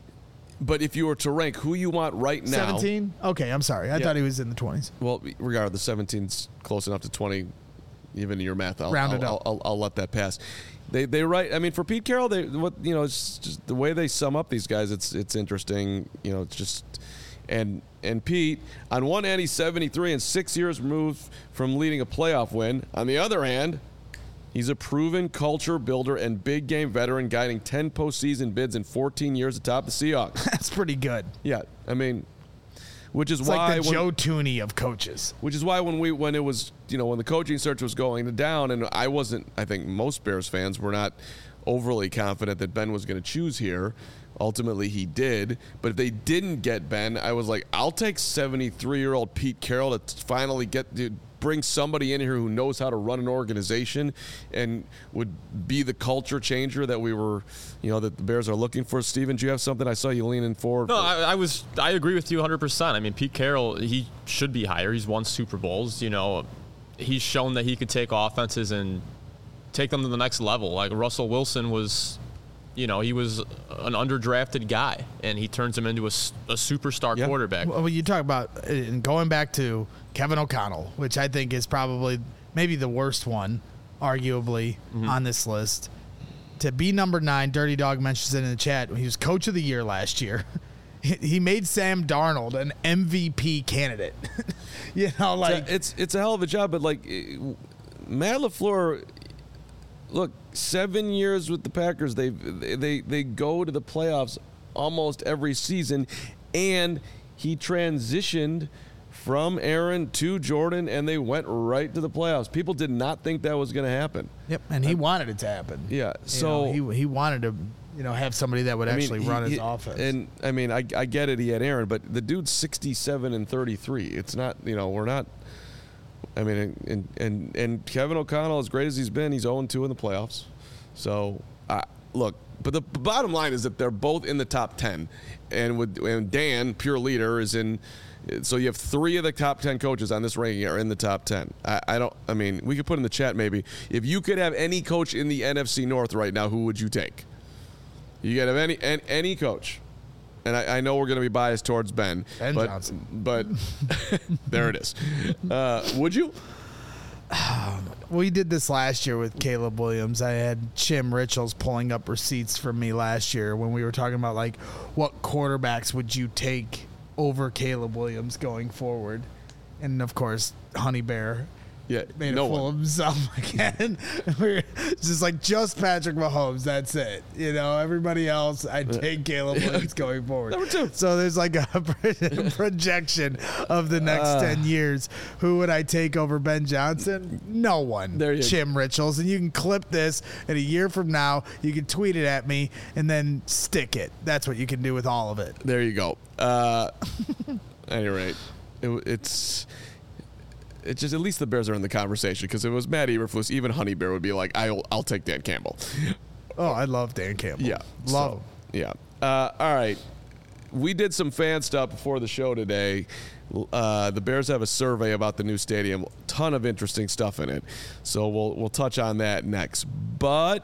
but if you were to rank who you want right now, seventeen? Okay, I'm sorry. I Yeah. thought he was in the twenties. well, regardless, seventeen's close enough to twenty. Even in your math, I'll, Round it I'll, up. I'll, I'll, I'll let that pass. They they write. I mean, for Pete Carroll, they what you know, it's just the way they sum up these guys. It's it's interesting. You know, it's just and and Pete on one hand, he's seventy-three and six years removed from leading a playoff win. On the other hand, he's a proven culture builder and big game veteran, guiding ten postseason bids in fourteen years atop the Seahawks. That's pretty good. Yeah, I mean, which is It's why like the when, Joe Tooney of coaches. which is why when we when it was you know when the coaching search was going down, and I wasn't, I think most Bears fans were not overly confident that Ben was going to choose here. Ultimately, he did. But if they didn't get Ben, I was like, I'll take seventy-three-year-old Pete Carroll to finally get to bring somebody in here who knows how to run an organization and would be the culture changer that we were, you know, that the Bears are looking for. Steven, do you have something? I saw you leaning forward. No, I, I was. I agree with you one hundred percent. I mean, Pete Carroll, he should be higher. He's won Super Bowls. You know, he's shown that he could take offenses and take them to the next level. Like Russell Wilson was, you know, he was an underdrafted guy, and he turns him into a, s- a superstar Yeah. quarterback. Well, you talk about and going back to Kevin O'Connell, which I think is probably maybe the worst one, arguably, Mm-hmm. on this list. To be number nine, Dirty Dog mentions it in the chat. He was coach of the year last year. He- He made Sam Darnold an M V P candidate. you know, like it's it's a hell of a job, but like eh, Matt LaFleur, look, seven years with the Packers, they they they go to the playoffs almost every season, and he transitioned from Aaron to Jordan, and they went right to the playoffs. People did not think that was going to happen. Yep, and he wanted it to happen. Yeah, You so know, he he wanted to, you know, have somebody that would I mean, actually he- run his he- offense. And I mean, I, I get it. He had Aaron, but the dude's sixty-seven and thirty-three. It's not, you know, we're not. I mean, and and and Kevin O'Connell, as great as he's been, he's oh and two in the playoffs. So, uh, look, but the bottom line is that they're both in the top ten, and with and Dan, pure leader, is in. So you have three of the top ten coaches on this ranking are in the top ten. I, I don't. I mean, we could put in the chat maybe if you could have any coach in the N F C North right now, who would you take? You could have any any, any coach, and I, I know we're going to be biased towards Ben, Ben but Johnson. but there it is. Uh, would you? We did this last year with Caleb Williams. I had Jim Richels pulling up receipts from me last year when we were talking about, like, what quarterbacks would you take over Caleb Williams going forward. And, of course, Honey Bear Yeah, made no a fool one. of himself again. We're just like, just Patrick Mahomes. That's it. You know, everybody else, I'd take Caleb Williams going forward. Number two. So there's like a projection of the next Uh. ten years. Who would I take over Ben Johnson? No one. There you Jim Richels. And you can clip this, and a year from now, you can tweet it at me and then stick it. That's what you can do with all of it. There you go. Uh, at any rate, it, it's it's just at least the Bears are in the conversation, because if it was Matt Eberflus, even Honey Bear would be like, I'll I'll take Dan Campbell. Oh, I love Dan Campbell. Yeah, Love so, him. Yeah. Uh, all right. We did some fan stuff before the show today. Uh, the Bears have a survey about the new stadium. Ton of interesting stuff in it. So we'll we'll touch on that next. But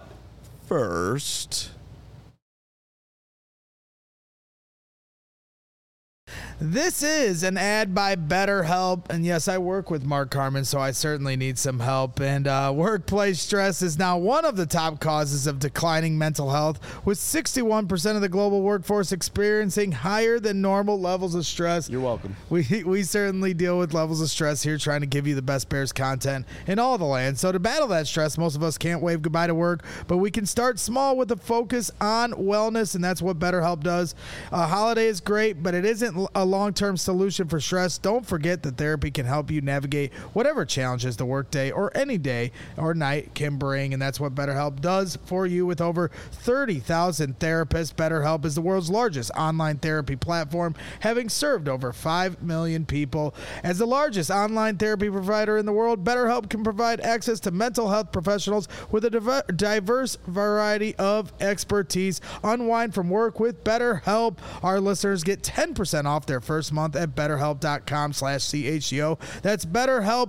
first, This is an ad by BetterHelp, and yes, I work with Mark Carmen, so I certainly need some help. And uh, workplace stress is now one of the top causes of declining mental health, with sixty-one percent of the global workforce experiencing higher than normal levels of stress. You're welcome. We we certainly deal with levels of stress here, trying to give you the best Bears content in all the land. So to battle that stress, most of us can't wave goodbye to work, but we can start small with a focus on wellness, and that's what BetterHelp does. A holiday is great, but it isn't a long-term solution for stress. Don't forget that therapy can help you navigate whatever challenges the workday or any day or night can bring, and that's what BetterHelp does for you. With over thirty thousand therapists, BetterHelp is the world's largest online therapy platform, having served over five million people. As the largest online therapy provider in the world, BetterHelp can provide access to mental health professionals with a diverse variety of expertise. Unwind from work with BetterHelp. Our listeners get ten percent off their first month at betterhelp.com slash CHGO. That's BetterHelp,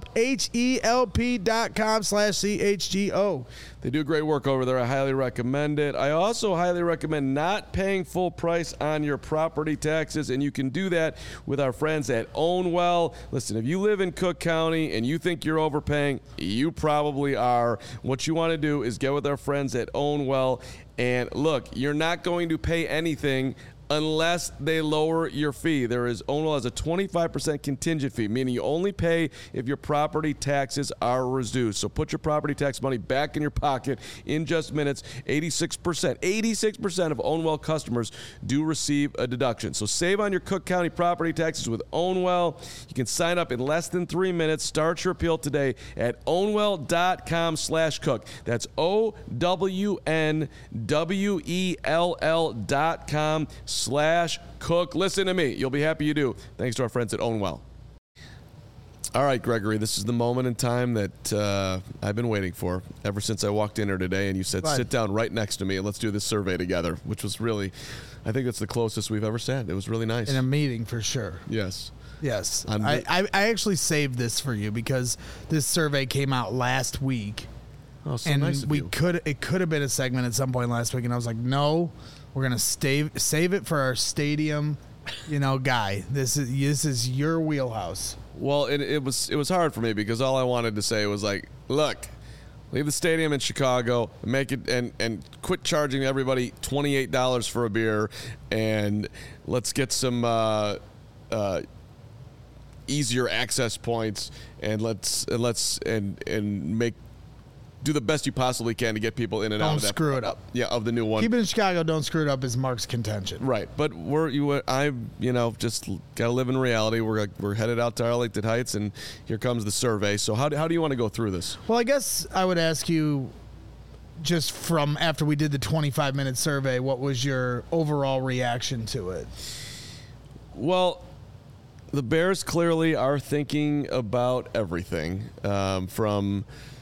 H-E-L-P dot com slash C-H-G-O. They do great work over there. I highly recommend it. I also highly recommend not paying full price on your property taxes, and you can do that with our friends at Ownwell. Listen, if you live in Cook County and you think you're overpaying, you probably are. What you want to do is get with our friends at Ownwell, and look, you're not going to pay anything unless they lower your fee. There is Ownwell has a twenty-five percent contingent fee, meaning you only pay if your property taxes are reduced. So put your property tax money back in your pocket in just minutes. eighty-six percent, eighty-six percent of Ownwell customers do receive a deduction. So save on your Cook County property taxes with Ownwell. You can sign up in less than three minutes. Start your appeal today at ownwell.com slash cook. That's O W N W E L L dot com slash cook. Listen to me. You'll be happy you do. Thanks to our friends at Ownwell. All right, Gregory, this is the moment in time that uh, I've been waiting for ever since I walked in here today, and you said, Right. sit down right next to me and let's do this survey together, which was really, I think that's the closest we've ever sat. It was really nice. In a meeting, for sure. Yes. Yes. I'm I, re- I, I actually saved this for you because this survey came out last week. Oh, so and nice of we you. could it could have been a segment at some point last week, and I was like, no, we're gonna save save it for our stadium, you know, guy. This is this is your wheelhouse. Well, it, it was it was hard for me because all I wanted to say was like, look, leave the stadium in Chicago, make it and and quit charging everybody twenty-eight dollars for a beer, and let's get some uh, uh, easier access points, and let's and let's and and make. Do the best you possibly can to get people in and Don't out of that. screw it up. Yeah, of the new one. Keep it in Chicago. Don't screw it up. Is Mark's contention. Right, but we're you. I you know just gotta live in reality. We're we're headed out to Arlington Heights, and here comes the survey. So how do, how do you want to go through this? Well, I guess I would ask you, just from after we did the twenty-five minute survey, what was your overall reaction to it? Well, the Bears clearly are thinking about everything, um, from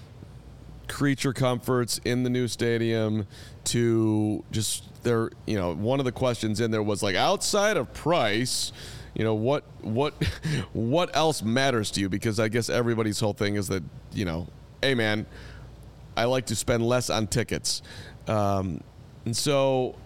creature comforts in the new stadium to just their, you know, one of the questions in there was like, outside of price, you know, what what what else matters to you? Because I guess everybody's whole thing is that, you know, hey man, I like to spend less on tickets, um, and so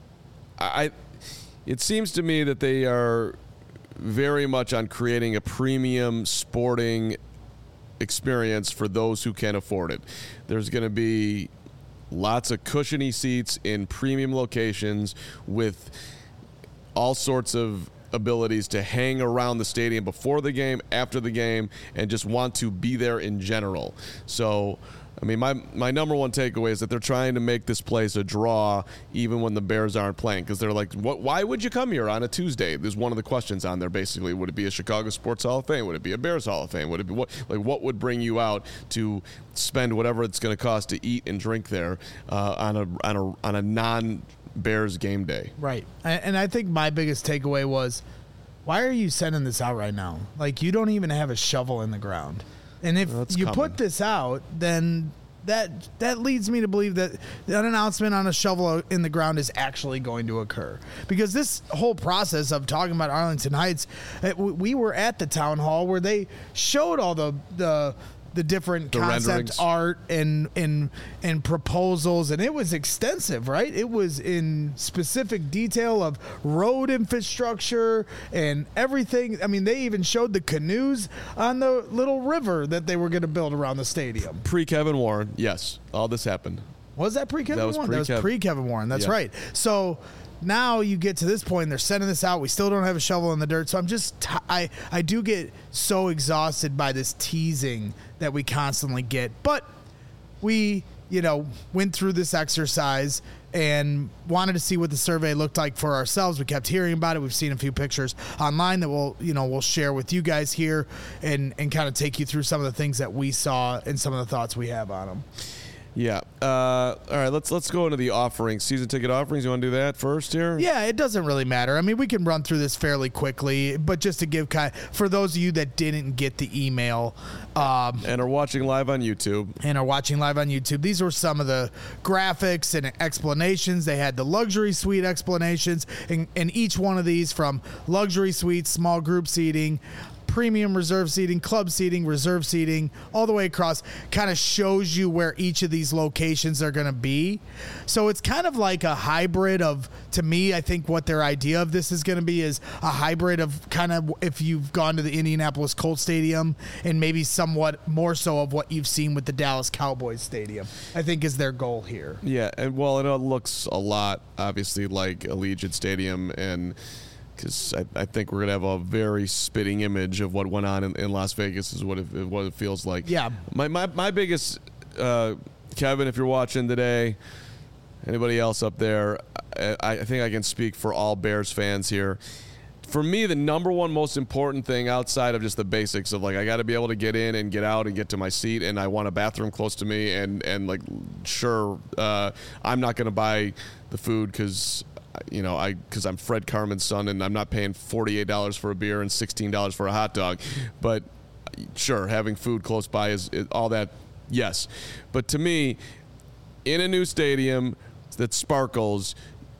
I it seems to me that they are very much on creating a premium sporting experience for those who can afford it. There's going to be lots of cushiony seats in premium locations with all sorts of abilities to hang around the stadium before the game, after the game, and just want to be there in general. So, I mean, my my number one takeaway is that they're trying to make this place a draw even when the Bears aren't playing, because they're like, what? Why would you come here on a Tuesday? There's one of the questions on there basically. Would it be a Chicago Sports Hall of Fame? Would it be a Bears Hall of Fame? Would it be what? Like, what would bring you out to spend whatever it's going to cost to eat and drink there uh, on a on a on a non-Bears game day? Right. And I think my biggest takeaway was, why are you sending this out right now? Like, you don't even have a shovel in the ground. And if Well, that's you coming. put this out, then that that leads me to believe that an announcement on a shovel in the ground is actually going to occur. Because this whole process of talking about Arlington Heights, it, we were at the town hall where they showed all the the the different The concept renderings. art and and and proposals, and it was extensive, right? It was in specific detail of road infrastructure and everything. I mean, they even showed the canoes on the little river that they were going to build around the stadium. Pre-Kevin Warren, yes, all this happened. Was that pre-Kevin That was Warren? That was pre-Kev- pre-Kevin Warren. That's Yeah. right. So now you get to this point, and they're sending this out. We still don't have a shovel in the dirt. So I'm just, t- I, I do get so exhausted by this teasing that we constantly get. But we, you know, went through this exercise and wanted to see what the survey looked like for ourselves. We kept hearing about it. We've seen a few pictures online that we'll, you know, we'll share with you guys here and, and kind of take you through some of the things that we saw and some of the thoughts we have on them. Yeah. Uh, all right. Let's let's go into the offerings, season ticket offerings. You want to do that first here? Yeah, it doesn't really matter. I mean, we can run through this fairly quickly, but just to give kind for those of you that didn't get the email um, And are watching live on YouTube. and are watching live on YouTube, these were some of the graphics and explanations. They had the luxury suite explanations, and, and each one of these from luxury suites, small group seating, premium reserve seating, club seating, reserve seating, all the way across, kind of shows you where each of these locations are going to be. So it's kind of like a hybrid of, to me, I think what their idea of this is going to be is a hybrid of kind of if you've gone to the Indianapolis Colts Stadium and maybe somewhat more so of what you've seen with the Dallas Cowboys Stadium, I think is their goal here. Yeah, and well, it looks a lot, obviously, like Allegiant Stadium, and because I, I think we're gonna have a very spitting image of what went on in, in Las Vegas is what it, what it feels like. Yeah. My my my biggest, uh, Kevin, if you're watching today, anybody else up there, I, I think I can speak for all Bears fans here. For me, the number one most important thing outside of just the basics of like I got to be able to get in and get out and get to my seat, and I want a bathroom close to me, and and like sure, uh, I'm not going to buy the food because you know I because I'm Fred Carmen's son and I'm not paying forty-eight dollars for a beer and sixteen dollars for a hot dog, but sure, having food close by is, is all that, yes, but to me, in a new stadium that sparkles,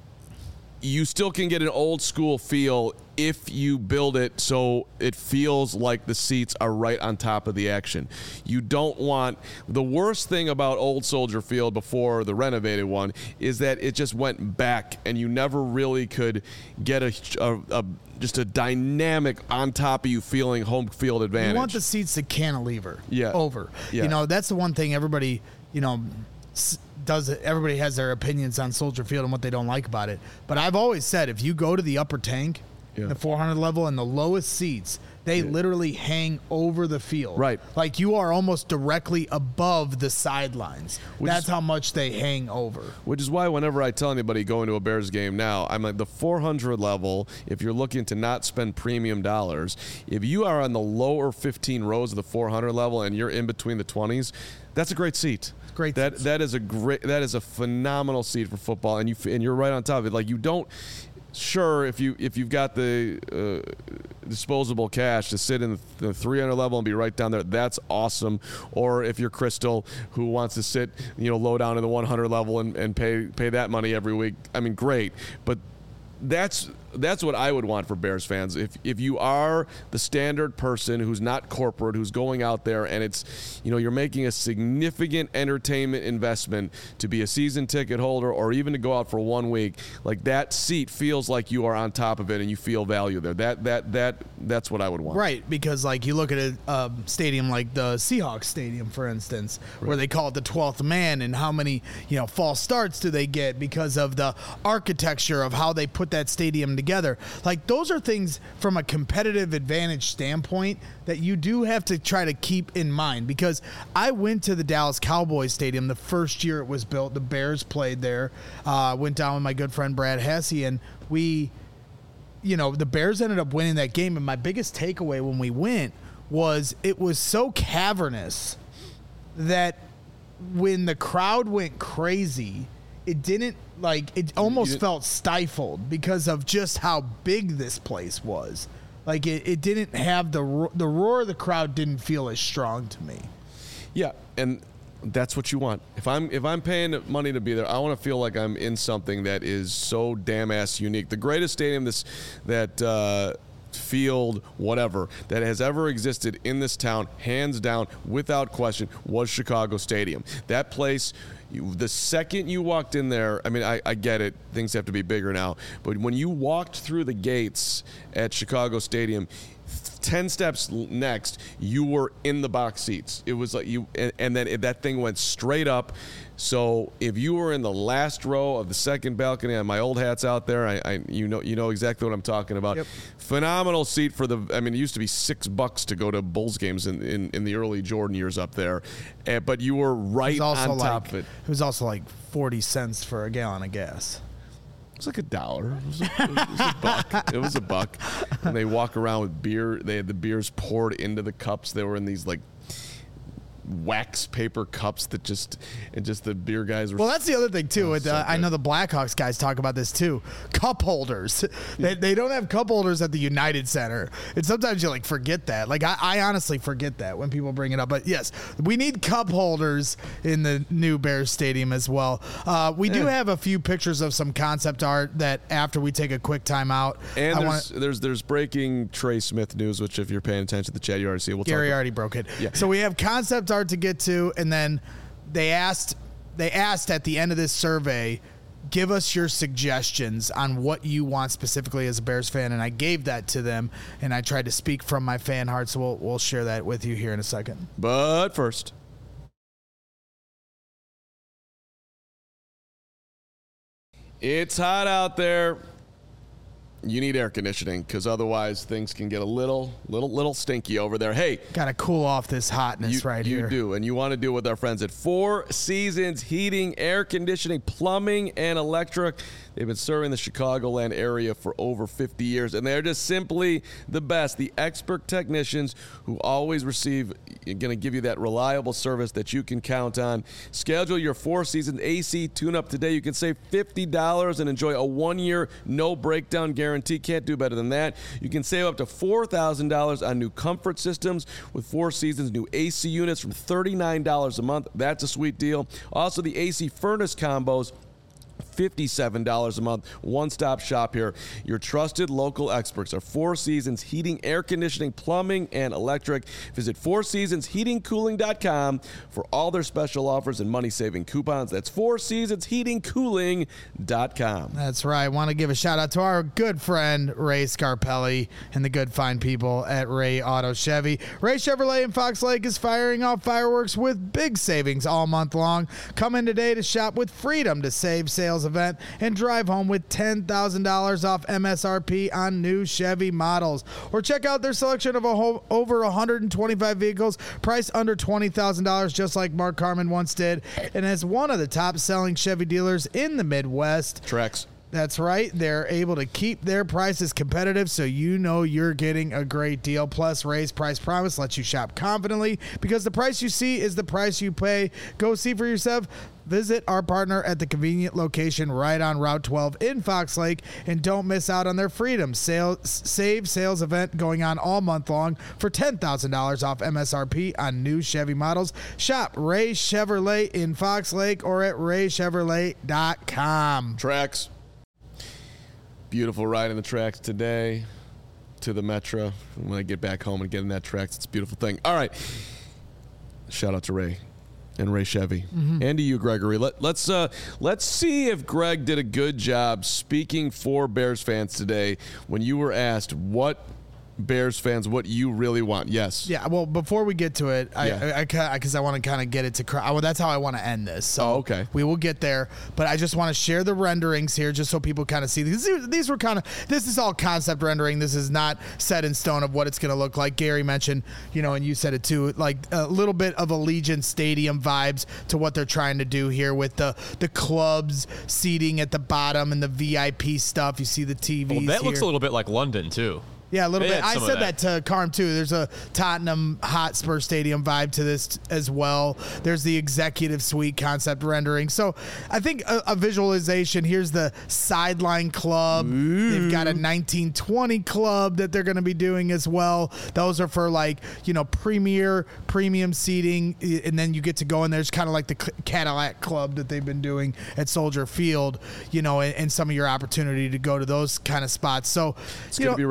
you still can get an old school feel if you build it so it feels like the seats are right on top of the action. You don't want the worst thing about Old Soldier Field before the renovated one is that it just went back and you never really could get a, a, a just a dynamic on top of you feeling home field advantage. You want the seats to cantilever Yeah. over. Yeah. You know, that's the one thing everybody, you know, s- does it. Everybody has their opinions on Soldier Field and what they don't like about it. But I've always said if you go to the upper tank, Yeah. the four hundred level and the lowest seats, they Yeah. literally hang over the field. Right. Like you are almost directly above the sidelines. Which That's is- how much they hang over. Which is why whenever I tell anybody going to a Bears game now, I'm like the four hundred level, if you're looking to not spend premium dollars, if you are on the lower fifteen rows of the four hundred level and you're in between the twenties, that's a great seat. Great That seats. that is a great that is a phenomenal seat for football, and you f- and you're right on top of it. Like you don't sure if you if you've got the uh, disposable cash to sit in the three hundred level and be right down there, that's awesome. Or if you're Crystal who wants to sit, you know, low down in the one hundred level and, and pay pay that money every week, I mean, great. But that's that's what I would want for Bears fans. If if you are the standard person who's not corporate, who's going out there and it's, you know, you're making a significant entertainment investment to be a season ticket holder or even to go out for one week, like that seat feels like you are on top of it and you feel value there. That that that that's what I would want. Right, because like you look at a um, stadium like the Seahawks Stadium, for instance, where they call it the twelfth man, and how many you know false starts do they get because of the architecture of how they put that stadium together. Like those are things from a competitive advantage standpoint that you do have to try to keep in mind. Because I went to the Dallas Cowboys Stadium the first year it was built. The Bears played there. Uh, went down with my good friend Brad Hesse, and we. You know, the Bears ended up winning that game, and my biggest takeaway when we went was it was so cavernous that when the crowd went crazy, it didn't, like, it almost didn't- felt stifled because of just how big this place was. Like, it, it didn't have the, ro- the roar of the crowd didn't feel as strong to me. Yeah, and that's what you want. If I'm if I'm paying money to be there, I want to feel like I'm in something that is so damn ass unique. The greatest stadium this that uh, field, whatever, that has ever existed in this town, hands down, without question, was Chicago Stadium. That place, you, the second you walked in there, I mean, I, I get it, things have to be bigger now, but when you walked through the gates at Chicago Stadium, ten steps next, you were in the box seats. It was like you, and, and then that thing went straight up. So if you were in the last row of the second balcony, and my old hat's out there, I, I you know you know exactly what I'm talking about. Yep. Phenomenal seat for the. I mean, it used to be six bucks to go to Bulls games in, in, in the early Jordan years up there, uh, but you were right on like, top of it. It was also like forty cents for a gallon of gas. It was like a dollar. It was a, it was a buck. It was a buck. And they walk around with beer. They had the beers poured into the cups. They were in these like wax paper cups that just and just the beer guys were. Well, that's the other thing too. Oh, with, so uh, I know the Blackhawks guys talk about this too. Cup holders. they, they don't have cup holders at the United Center, and sometimes you like forget that. Like I, I honestly forget that when people bring it up. But yes, we need cup holders in the new Bears Stadium as well. Uh, we yeah. do have a few pictures of some concept art that after we take a quick time out. And I there's, wanna, there's there's breaking Trey Smith news, which if you're paying attention to the chat, you already see. We'll Gary talk already broke it. Yeah. So we have concept art to get to, and then they asked they asked at the end of this survey, give us your suggestions on what you want specifically as a Bears fan, and I gave that to them, and I tried to speak from my fan heart, so we'll we'll share that with you here in a second. But first, it's hot out there. You need air conditioning because otherwise things can get a little, little, little stinky over there. Hey, gotta cool off this hotness you, right you here. You do, and you want to do it with our friends at Four Seasons Heating, Air Conditioning, Plumbing, and Electric. They've been serving the Chicagoland area for over fifty years, and they're just simply the best. The expert technicians who always receive, going to give you that reliable service that you can count on. Schedule your Four Seasons A C tune-up today. You can save fifty dollars and enjoy a one-year no-breakdown guarantee. Can't do better than that. You can save up to four thousand dollars on new comfort systems with Four Seasons new A C units from thirty-nine dollars a month. That's a sweet deal. Also, the A C furnace combos, fifty-seven dollars a month. One-stop shop here. Your trusted local experts are Four Seasons Heating, Air Conditioning, Plumbing, and Electric. Visit four seasons heating cooling dot com for all their special offers and money-saving coupons. That's four seasons heating cooling dot com. That's right. I want to give a shout-out to our good friend, Ray Scarpelli, and the good fine people at Ray Auto Chevy. Ray Chevrolet in Fox Lake is firing off fireworks with big savings all month long. Come in today to shop with freedom to save sales event and drive home with ten thousand dollars off M S R P on new Chevy models. Or check out their selection of a whole, over one hundred twenty-five vehicles priced under twenty thousand dollars, just like Mark Carman once did, and as one of the top selling Chevy dealers in the Midwest. Trex. That's right. They're able to keep their prices competitive, so you know you're getting a great deal. Plus, Ray's Price Promise lets you shop confidently because the price you see is the price you pay. Go see for yourself. Visit our partner at the convenient location right on Route twelve in Fox Lake, and don't miss out on their Freedom Sale, Save Sales event going on all month long for ten thousand dollars off M S R P on new Chevy models. Shop Ray Chevrolet in Fox Lake or at ray chevrolet dot com. Tracks. Beautiful ride in the tracks today to the Metro. When I get back home and get in that tracks, it's a beautiful thing. All right. Shout out to Ray and Ray Chevy. Mm-hmm. And to you, Gregory. Let, let's uh, let's see if Greg did a good job speaking for Bears fans today when you were asked what Bears fans, what you really want. Yes. Yeah. Well, before we get to it, I, yeah. I, because I, I, I want to kind of get it to. Well, that's how I want to end this. So oh, okay. We will get there, but I just want to share the renderings here, just so people kind of see these. These were kind of. This is all concept rendering. This is not set in stone of what it's going to look like. Gary mentioned, you know, and you said it too, like a little bit of Allegiant Stadium vibes to what they're trying to do here with the the clubs seating at the bottom and the V I P stuff. You see the T Vs. Well, that here. looks a little bit like London too. Yeah, a little They bit. had I some said of that. that. to Carm, too. There's a Tottenham Hotspur Stadium vibe to this as well. There's the executive suite concept rendering. So I think a, a visualization, here's the sideline club. Ooh. They've got a nineteen twenty club that they're going to be doing as well. Those are for, like, you know, premier, premium seating. And then you get to go in there. It's kind of like the Cadillac Club that they've been doing at Soldier Field, you know, and, and some of your opportunity to go to those kind of spots. So it's going to be rich. I think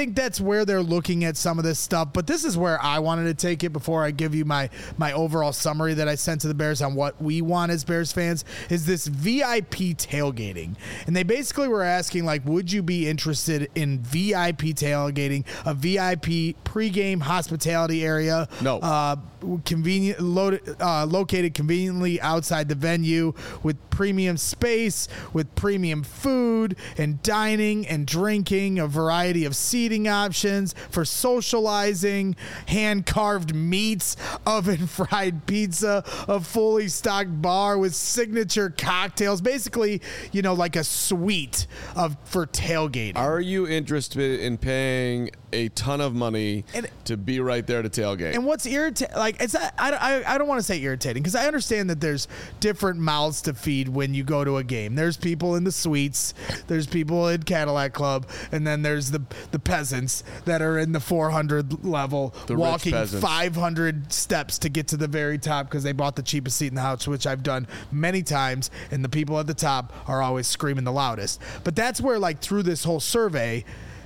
think that's where they're looking at some of this stuff. But this is where I wanted to take it before I give you my my overall summary that I sent to the Bears on what we want as Bears fans, is this V I P tailgating. And they basically were asking, like, would you be interested in V I P tailgating, a V I P pregame hospitality area? No. Uh, convenient, loaded, uh, located conveniently outside the venue with premium space, with premium food and dining and drinking, a variety of seating options for socializing, hand-carved meats, oven-fried pizza, a fully stocked bar with signature cocktails, basically, you know, like a suite of for tailgating. Are you interested in paying a ton of money and, to be right there to tailgate? And what's irritating, like, it's I, I, I don't want to say irritating, because I understand that there's different mouths to feed when you go to a game. There's people in the suites, there's people in Cadillac Club, and then there's the the peasants that are in the four hundred level, the walking five hundred steps to get to the very top because they bought the cheapest seat in the house, which I've done many times, and the people at the top are always screaming the loudest. But that's where, like, through this whole survey,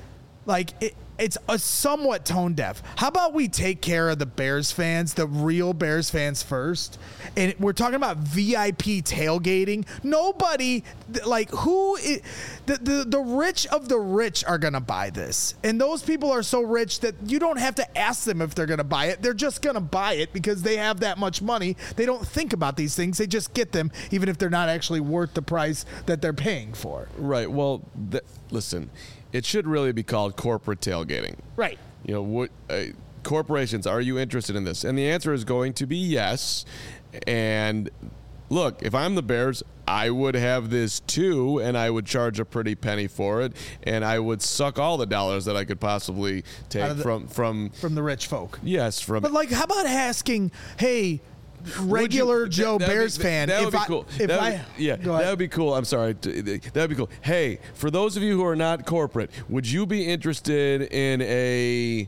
like, it, it's a somewhat tone deaf. How about we take care of the Bears fans, the real Bears fans first? And we're talking about V I P tailgating. Nobody, like, who, is, the, the, the rich of the rich are going to buy this. And those people are so rich that you don't have to ask them if they're going to buy it. They're just going to buy it because they have that much money. They don't think about these things. They just get them, even if they're not actually worth the price that they're paying for. Right. Well, th- listen, it should really be called corporate tailgating. Right. You know, what uh, corporations, are you interested in this? And the answer is going to be yes. And look, if I'm the Bears, I would have this too, and I would charge a pretty penny for it, and I would suck all the dollars that I could possibly take the, from from from the rich folk. Yes, from. But, like, how about asking, hey, regular you, Joe that, Bears be, fan, that, that if would be I, cool. if that I, would, yeah, that would be cool. I'm sorry, that would be cool. Hey, for those of you who are not corporate, would you be interested in a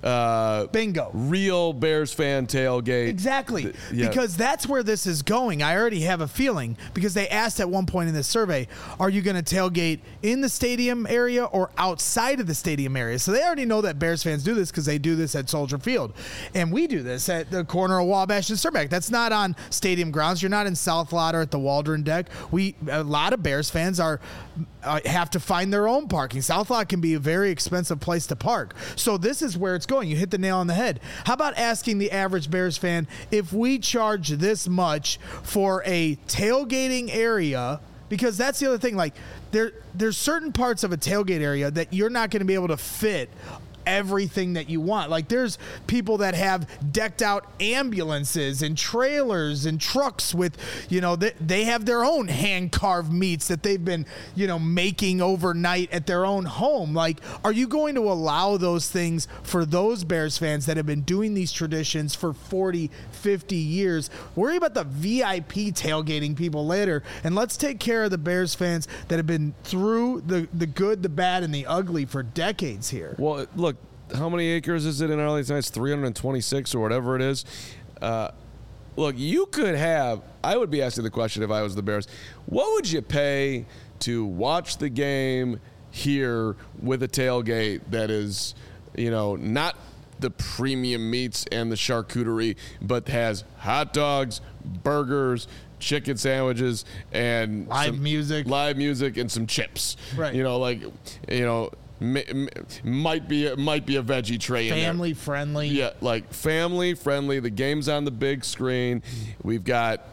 uh, bingo real Bears fan tailgate? Exactly, yeah. Because that's where this is going. I already have a feeling, because they asked at one point in this survey, are you going to tailgate in the stadium area or outside of the stadium area? So they already know that Bears fans do this because they do this at Soldier Field, and we do this at the corner of Wabash and Surback. That's not on stadium grounds. You're not in South Lot or at the Waldron deck. We a lot of Bears fans are uh, have to find their own parking. South Lot can be a very expensive place to park. So this is where it's going. You hit the nail on the head. How about asking the average Bears fan, if we charge this much for a tailgating area? Because that's the other thing. Like, there, there's certain parts of a tailgate area that you're not going to be able to fit everything that you want. Like, there's people that have decked out ambulances and trailers and trucks with, you know, they, they have their own hand carved meats that they've been, you know, making overnight at their own home. Like, are you going to allow those things for those Bears fans that have been doing these traditions for forty, fifty years? Worry about the V I P tailgating people later, and let's take care of the Bears fans that have been through the, the good, the bad, and the ugly for decades here. Well, look, how many acres is it in Arlington Heights? three hundred twenty-six or whatever it is. Uh, look, you could have, I would be asking the question if I was the Bears, what would you pay to watch the game here with a tailgate that is, you know, not the premium meats and the charcuterie, but has hot dogs, burgers, chicken sandwiches, and live some music, live music, and some chips. Right. You know, like, you know, m- m- might be might be a veggie tray. Family in there. friendly. Yeah, like family friendly. The game's on the big screen. We've got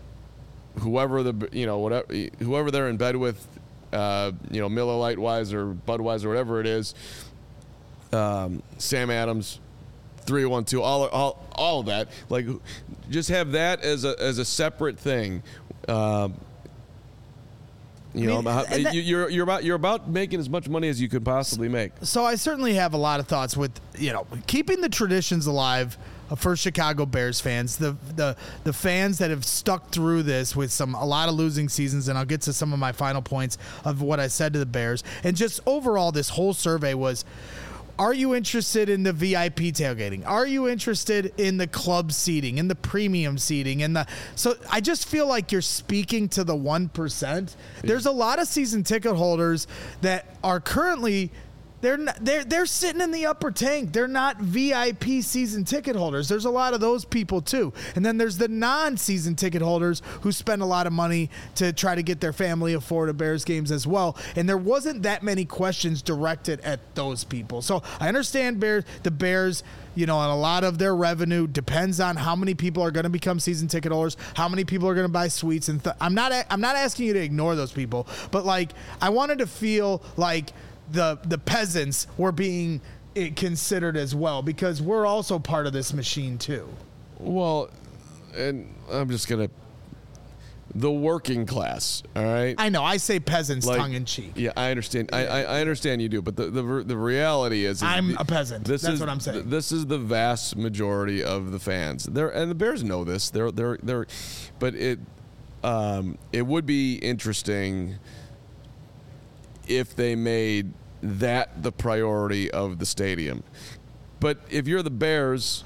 whoever the you know whatever whoever they're in bed with, uh, you know, Miller Lite wise or Budweiser, whatever it is. Um, Sam Adams. three one two, all all all of that. Like, just have that as a as a separate thing. Um, you I mean, know, that, you're you're about you're about making as much money as you could possibly make. So I certainly have a lot of thoughts with, you know, keeping the traditions alive for Chicago Bears fans, the the the fans that have stuck through this with some a lot of losing seasons, and I'll get to some of my final points of what I said to the Bears. And just overall, this whole survey was, are you interested in the V I P tailgating? Are you interested in the club seating, in the premium seating? And the so I just feel like you're speaking to the one percent. There's a lot of season ticket holders that are currently They're not, they're they're sitting in the upper tank. They're not V I P season ticket holders. There's a lot of those people too. And then there's the non-season ticket holders who spend a lot of money to try to get their family afford Bears games as well. And there wasn't that many questions directed at those people. So I understand Bears, the Bears, you know, and a lot of their revenue depends on how many people are going to become season ticket holders, how many people are going to buy suites. And th- I'm not I'm not asking you to ignore those people, but like I wanted to feel like the the peasants were being considered as well, because we're also part of this machine too. Well, and I'm just gonna the working class. All right. I know I say peasants like, tongue in cheek. Yeah, I understand. I, I, I understand you do, but the the, the reality is, is I'm the, a peasant. This That's is, what I'm saying. This is the vast majority of the fans. They're and the Bears know this. They're they're they're, but it um it would be interesting if they made that the priority of the stadium. But if you're the Bears,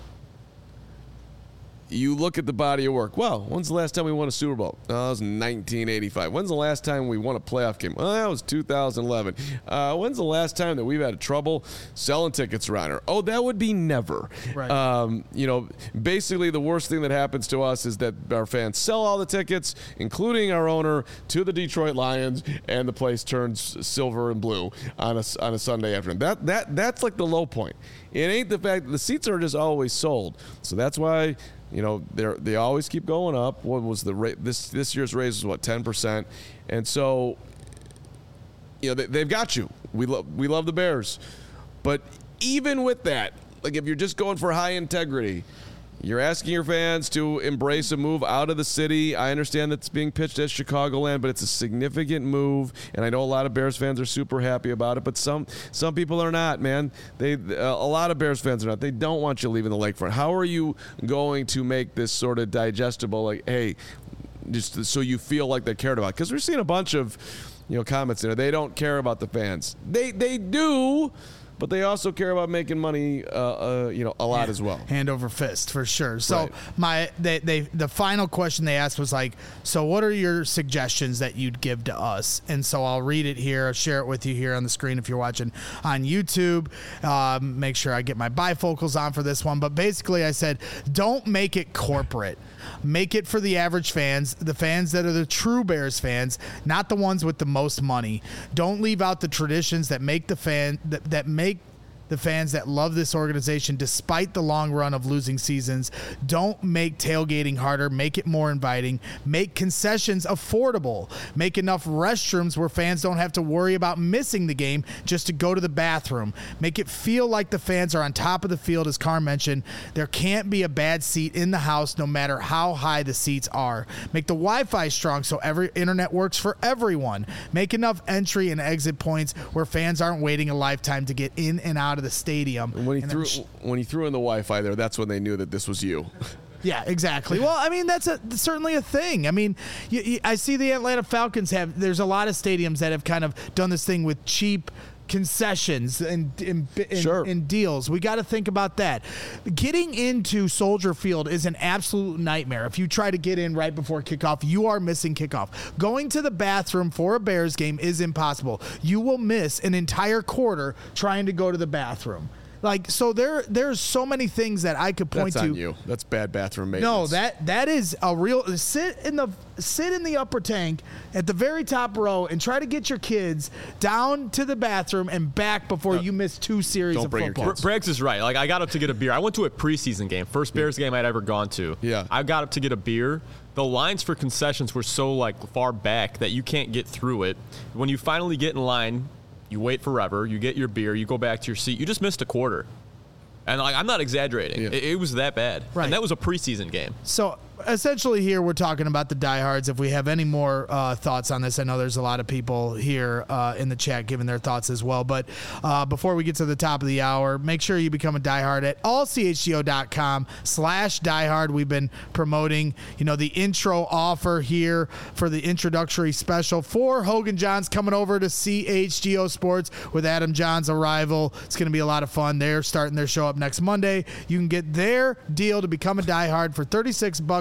you look at the body of work. Well, when's the last time we won a Super Bowl? Oh, that was nineteen eighty-five. When's the last time we won a playoff game? Well, that was two thousand eleven. Uh, when's the last time that we've had trouble selling tickets around here? Oh, that would be never. Right. Um, you know, basically the worst thing that happens to us is that our fans sell all the tickets, including our owner, to the Detroit Lions, and the place turns silver and blue on a, on a Sunday afternoon. That that That's like the low point. It ain't the fact that the seats are just always sold. So that's why, you know, they they always keep going up. What was the rate? This this year's raise was what, ten percent, and so, you know, they, they've got you. We love we love the Bears, but even with that, like if you're just going for high integrity, you're asking your fans to embrace a move out of the city. I understand that's being pitched as Chicagoland, but it's a significant move, and I know a lot of Bears fans are super happy about it. But some some people are not, man. They uh, a lot of Bears fans are not. They don't want you leaving the lakefront. How are you going to make this sort of digestible? Like, hey, just so you feel like they cared about? Because we're seeing a bunch of, you know, comments there. They don't care about the fans. They they do. But they also care about making money, uh, uh, you know, a lot Yeah. as well. Hand over fist for sure. So Right. my they, they the final question they asked was like, so what are your suggestions that you'd give to us? And so I'll read it here, I'll share it with you here on the screen if you're watching on YouTube. Um, make sure I get my bifocals on for this one. But basically I said, don't make it corporate. Make it for the average fans, the fans that are the true Bears fans, not the ones with the most money. Don't leave out the traditions that make the fan that, that make the fans that love this organization despite the long run of losing seasons. Don't make tailgating harder. Make it more inviting. Make concessions affordable. Make enough restrooms where fans don't have to worry about missing the game just to go to the bathroom. Make it feel like the fans are on top of the field, as Carr mentioned. There can't be a bad seat in the house no matter how high the seats are. Make the Wi-Fi strong so every internet works for everyone. Make enough entry and exit points where fans aren't waiting a lifetime to get in and out of the stadium. When he And threw then sh- when he threw in the Wi-Fi there, that's when they knew that this was you. Yeah, exactly. Well, I mean, that's a, certainly a thing. I mean, you, you, I see the Atlanta Falcons have, there's a lot of stadiums that have kind of done this thing with cheap concessions and, and, and, Sure. and deals. We got to think about that. Getting into Soldier Field is an absolute nightmare. If you try to get in right before kickoff, you are missing kickoff. Going to the bathroom for a Bears game is impossible. You will miss an entire quarter trying to go to the bathroom. Like, so there, there's so many things that I could point That's to. on you. That's bad bathroom No, maintenance. that that is a real sit in the sit in the upper tank at the very top row and try to get your kids down to the bathroom and back before you miss two series don't of bring your football. kids. Braggs is right. Like, I got up to get a beer. I went to a preseason game, first Bears game I'd ever gone to. Yeah. I got up to get a beer. The lines for concessions were so like far back that you can't get through it. When you finally get in line, you wait forever. You get your beer. You go back to your seat. You just missed a quarter. And like, I'm not exaggerating. Yeah. It, it was that bad. Right. And that was a preseason game. So essentially here we're talking about the diehards. If we have any more uh, thoughts on this, I know there's a lot of people here uh, in the chat giving their thoughts as well. But uh, before we get to the top of the hour, make sure you become a diehard at all c h g o dot com slash diehard. We've been promoting, you know, the intro offer here for the introductory special for Hogan Johns coming over to C H G O Sports with Adam Johns' arrival. It's going to be a lot of fun. They're starting their show up next Monday. You can get their deal to become a diehard for thirty-six bucks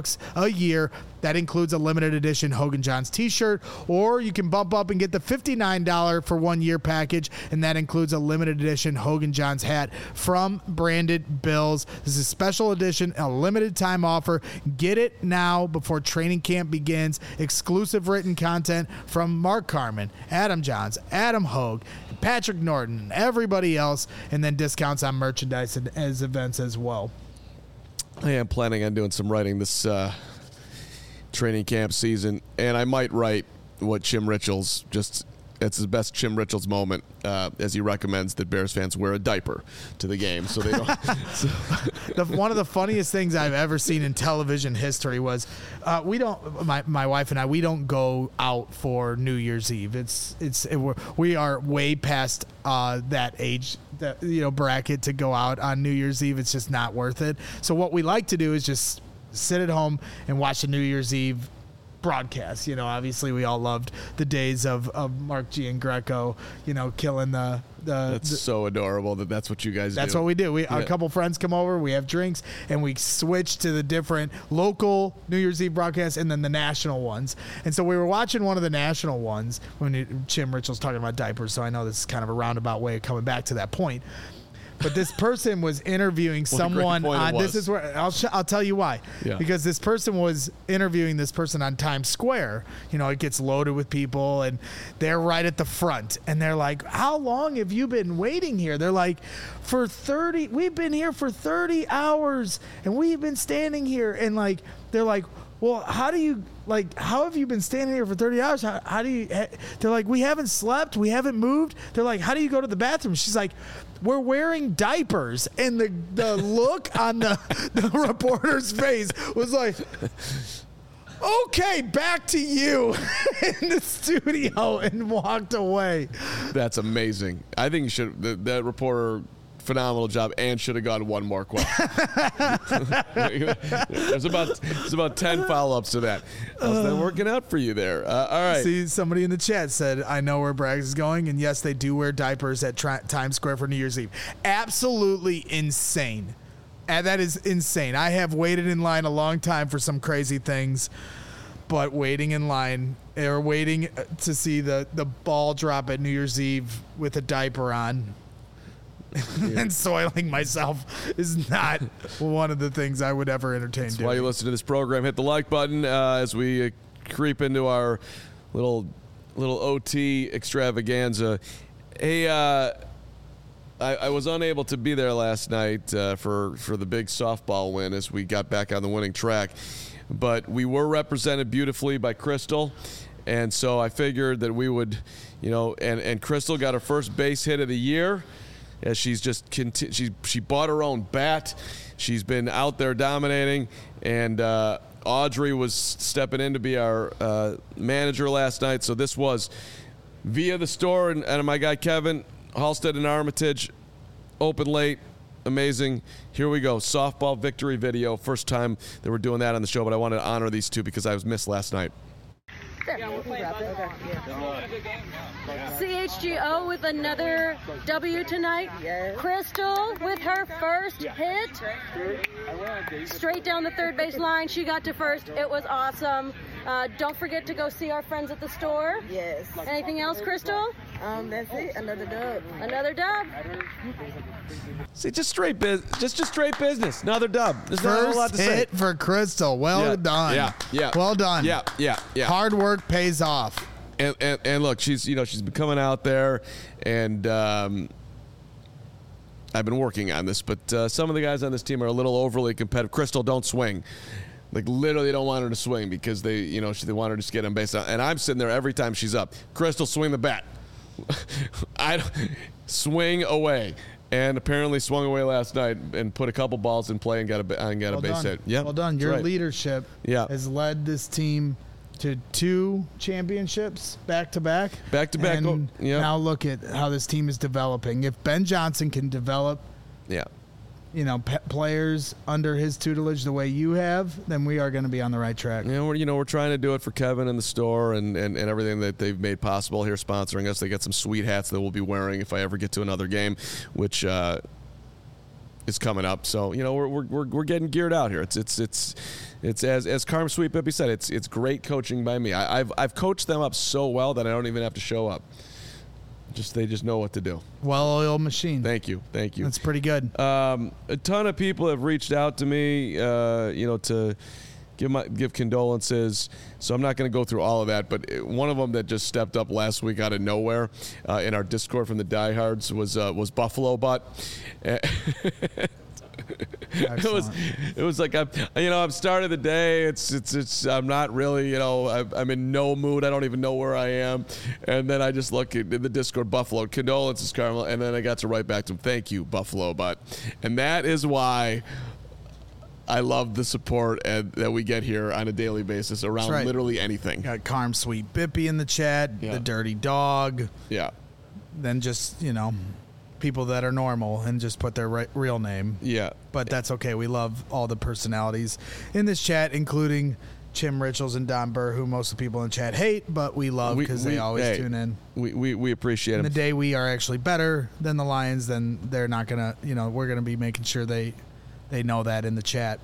bucks a year. That includes a limited edition Hogan Johns t-shirt, or you can bump up and get the fifty-nine dollars for one year package, and that includes a limited edition Hogan Johns hat from Branded Bills. This is a special edition, a limited time offer. Get it now before training camp begins. Exclusive written content from Mark Carman, Adam Johns, Adam Hogue, Patrick Norton, and everybody else, and then discounts on merchandise and as events as well. I am planning on doing some writing this uh, training camp season, and I might write what Chim Richards just. It's his best Chim Richards moment, uh, as he recommends that Bears fans wear a diaper to the game, so they don't. so. the, one of the funniest things I've ever seen in television history was uh, we don't. My, my wife and I, we don't go out for New Year's Eve. It's it's it, we're, we are way past uh, that age, that, you know, bracket to go out on New Year's Eve. It's just not worth it. So what we like to do is just sit at home and watch the New Year's Eve broadcast. You know, obviously we all loved the days of, of Mark Giangreco, you know, killing the the That's the, so adorable that that's what you guys that's do. what we do. We Yeah. a couple friends come over, we have drinks, and we switch to the different local New Year's Eve broadcasts and then the national ones. And so we were watching one of the national ones when it, Chim Richards talking about diapers, so I know this is kind of a roundabout way of coming back to that point. But this person was interviewing What a great someone point it on. This was. is where I'll sh- I'll tell you why. Yeah. Because this person was interviewing this person on Times Square. You know, it gets loaded with people, and they're right at the front, and they're like, "How long have you been waiting here?" They're like, "For thirty. We've been here for thirty hours, and we've been standing here." And like, they're like, "Well, how do you like? How have you been standing here for thirty hours? How, how do you?" They're like, "We haven't slept. We haven't moved." They're like, "How do you go to the bathroom?" She's like, "We're wearing diapers." And the the look on the, the reporter's face was like, "Okay, back to you," in the studio, and walked away. That's amazing. I think you should. The, that reporter, phenomenal job, and should have gone one more question. there's about there's about ten follow-ups to that. How's that working out for you there? Uh, all right. See, somebody in the chat said, "I know where Braggs is going," and yes, they do wear diapers at tri- Times Square for New Year's Eve. Absolutely insane. And that is insane. I have waited in line a long time for some crazy things, but waiting in line or waiting to see the, the ball drop at New Year's Eve with a diaper on and soiling myself is not one of the things I would ever entertain That's doing. why you listen to this program. Hit the like button uh, as we uh, creep into our little little O T extravaganza. Hey, uh, I, I was unable to be there last night uh, for for the big softball win as we got back on the winning track, but we were represented beautifully by Crystal, and so I figured that we would, you know, and and Crystal got her first base hit of the year. As she's just conti- she she bought her own bat. She's been out there dominating, and uh, Audrey was stepping in to be our uh, manager last night. So this was via the store, and, and my guy Kevin Halstead and Armitage, open late, amazing. Here we go, softball victory video. First time that we're doing that on the show, but I wanted to honor these two because I was missed last night. C H G O with another W tonight. Yes. Crystal with her first hit. Straight down the third base line. She got to first. It was awesome. Uh, don't forget to go see our friends at the store. Yes. Anything else, Crystal? Um, that's it. Another dub. Another dub. See, just straight biz, just just straight business. Another dub. There's not a whole lot First to say. hit for Crystal. Well Yeah, done. yeah, yeah. Well done. Yeah, yeah, yeah. Hard work pays off. And, and and look, she's you know she's been coming out there, and um, I've been working on this, but uh, some of the guys on this team are a little overly competitive. Crystal, don't swing. Like literally, don't want her to swing because they you know she, they want her to just get on base. And I'm sitting there every time she's up. Crystal, swing the bat. I don't, swing away. And apparently swung away last night and put a couple balls in play and got a and got Well a base done. hit. Yeah, Well done. Your right. leadership Yeah. has led this team to two championships back to back. Back to back, And oh, yeah. now look at how this team is developing. If Ben Johnson can develop, Yeah. you know, pe- players under his tutelage the way you have, then we are going to be on the right track. You know, we're, you know, we're trying to do it for Kevin and the store and, and, and everything that they've made possible here sponsoring us. They got some sweet hats that we'll be wearing if I ever get to another game, which uh, is coming up. So you know we're we're we're, we're getting geared out here. It's it's it's it's as as Carm Sweet Bippy said. It's it's great coaching by me. I, I've I've coached them up so well that I don't even have to show up. Just they just know what to do. Well-oiled machine. Thank you, thank you. That's pretty good. Um, a ton of people have reached out to me, uh, you know, to give my give condolences. So I'm not going to go through all of that, but one of them that just stepped up last week out of nowhere uh, in our Discord from the diehards was uh, was Buffalo Butt. It was, it was like I'm, you know, I've started the day. It's, it's, it's. I'm not really, you know, I'm, I'm in no mood. I don't even know where I am. And then I just look at in the Discord, Buffalo, condolences, Carmel. And then I got to write back to him, thank you, Buffalo Butt. And that is why I love the support and, that we get here on a daily basis around right. literally anything. Got Carm Sweet Bippy in the chat, Yeah. the Dirty Dog. Yeah. Then just, you know, people that are normal and just put their re- real name. Yeah. But that's okay. We love all the personalities in this chat, including Chim Richards and Don Burr, who most of the people in the chat hate, but we love because they always hey, tune in. We, we, we appreciate And the them. day we are actually better than the Lions, then they're not going to, you know, we're going to be making sure they they know that in the chat.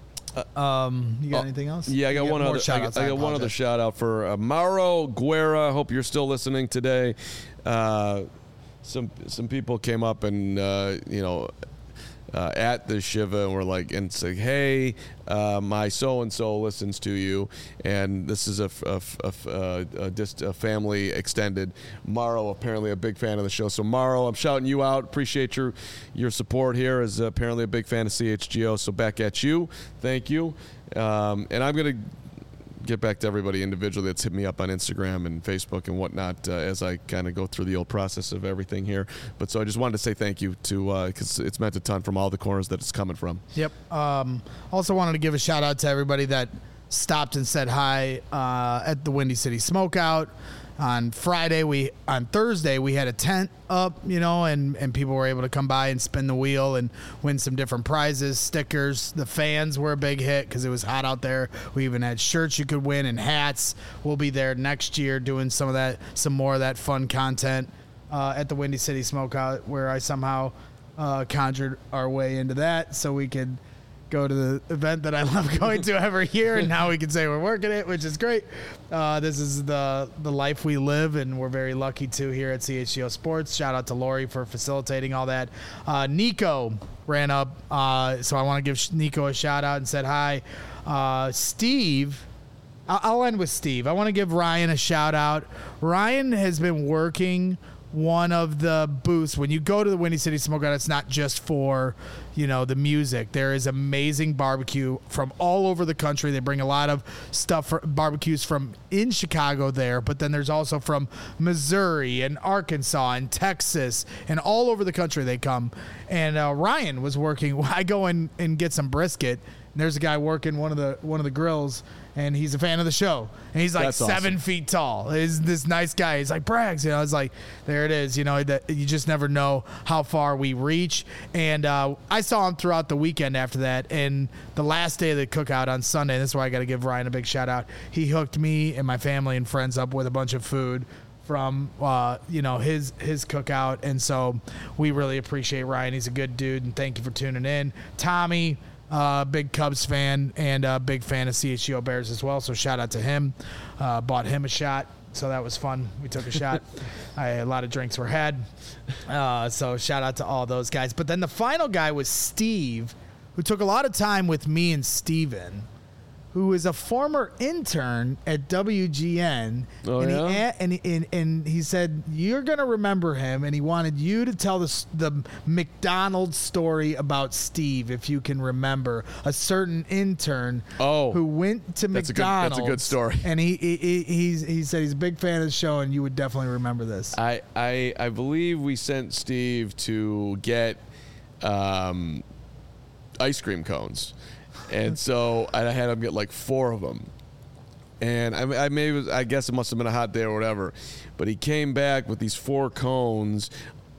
Um, you got uh, anything else? Yeah, I got You one more other. I shout-outs? got, I got one other apologize. shout out for uh, Mauro Guerra. Hope you're still listening today. Uh, some some people came up and uh, you know uh, at the Shiva and were like and say, hey, uh, my so and so listens to you, and this is a a, a, a, a, just a family extended. Mauro apparently a big fan of the show. So Mauro, I'm shouting you out. Appreciate your your support here. Is apparently a big fan of C H G O. So back at you. Thank you. Um, and I'm gonna get back to everybody individually that's hit me up on Instagram and Facebook and whatnot uh, as I kind of go through the old process of everything here. But so I just wanted to say thank you to because uh, it's meant a ton from all the corners that it's coming from. Yep. Um, also wanted to give a shout out to everybody that stopped and said hi uh, at the Windy City Smokeout. On Friday, we on Thursday we had a tent up, you know, and, and people were able to come by and spin the wheel and win some different prizes, stickers. The fans were a big hit because it was hot out there. We even had shirts you could win and hats. We'll be there next year doing some of that, some more of that fun content uh, at the Windy City Smokeout, where I somehow uh, conjured our way into that so we could go to the event that I love going to every year, and now we can say we're working it, which is great. Uh, this is the the life we live, and we're very lucky to here at C H G O Sports. Shout out to Lori for facilitating all that. Uh, Nico ran up, uh, so I want to give Nico a shout out and said hi. Uh, Steve, I'll end with Steve. I want to give Ryan a shout out. Ryan has been working one of the booths. When you go to the Windy City Smokeout, it's not just for, you know, the music. There is amazing barbecue from all over the country. They bring a lot of stuff for barbecues from in Chicago there, but then there's also from Missouri and Arkansas and Texas and all over the country they come. And uh, Ryan was working. I go in and get some brisket, and there's a guy working one of the one of the grills, and he's a fan of the show. And he's like That's seven awesome. feet tall. He's this nice guy. He's like, Braggs. You know, it's like, there it is. You know, that you just never know how far we reach. And uh, I saw him throughout the weekend after that. And the last day of the cookout on Sunday, this is why I got to give Ryan a big shout out. He hooked me and my family and friends up with a bunch of food from, uh, you know, his his cookout. And so we really appreciate Ryan. He's a good dude. And thank you for tuning in. Tommy, Uh, big Cubs fan and a big fan of C H G O Bears as well. So shout out to him. Uh, bought him a shot. So that was fun. We took a shot. I, a lot of drinks were had. Uh, so shout out to all those guys. But then the final guy was Steve, who took a lot of time with me and Steven, who is a former intern at W G N. Oh, and, yeah? he, a- and, he, and, and he said, you're going to remember him, and he wanted you to tell the, s- the McDonald's story about Steve, if you can remember. A certain intern Oh, who went to that's a good- McDonald's. that's a good story. And he, he, he, he's, he said he's a big fan of the show, and you would definitely remember this. I, I I believe we sent Steve to get um, ice cream cones, and so I had him get like four of them. And I, I maybe I guess it must have been a hot day or whatever, but he came back with these four cones.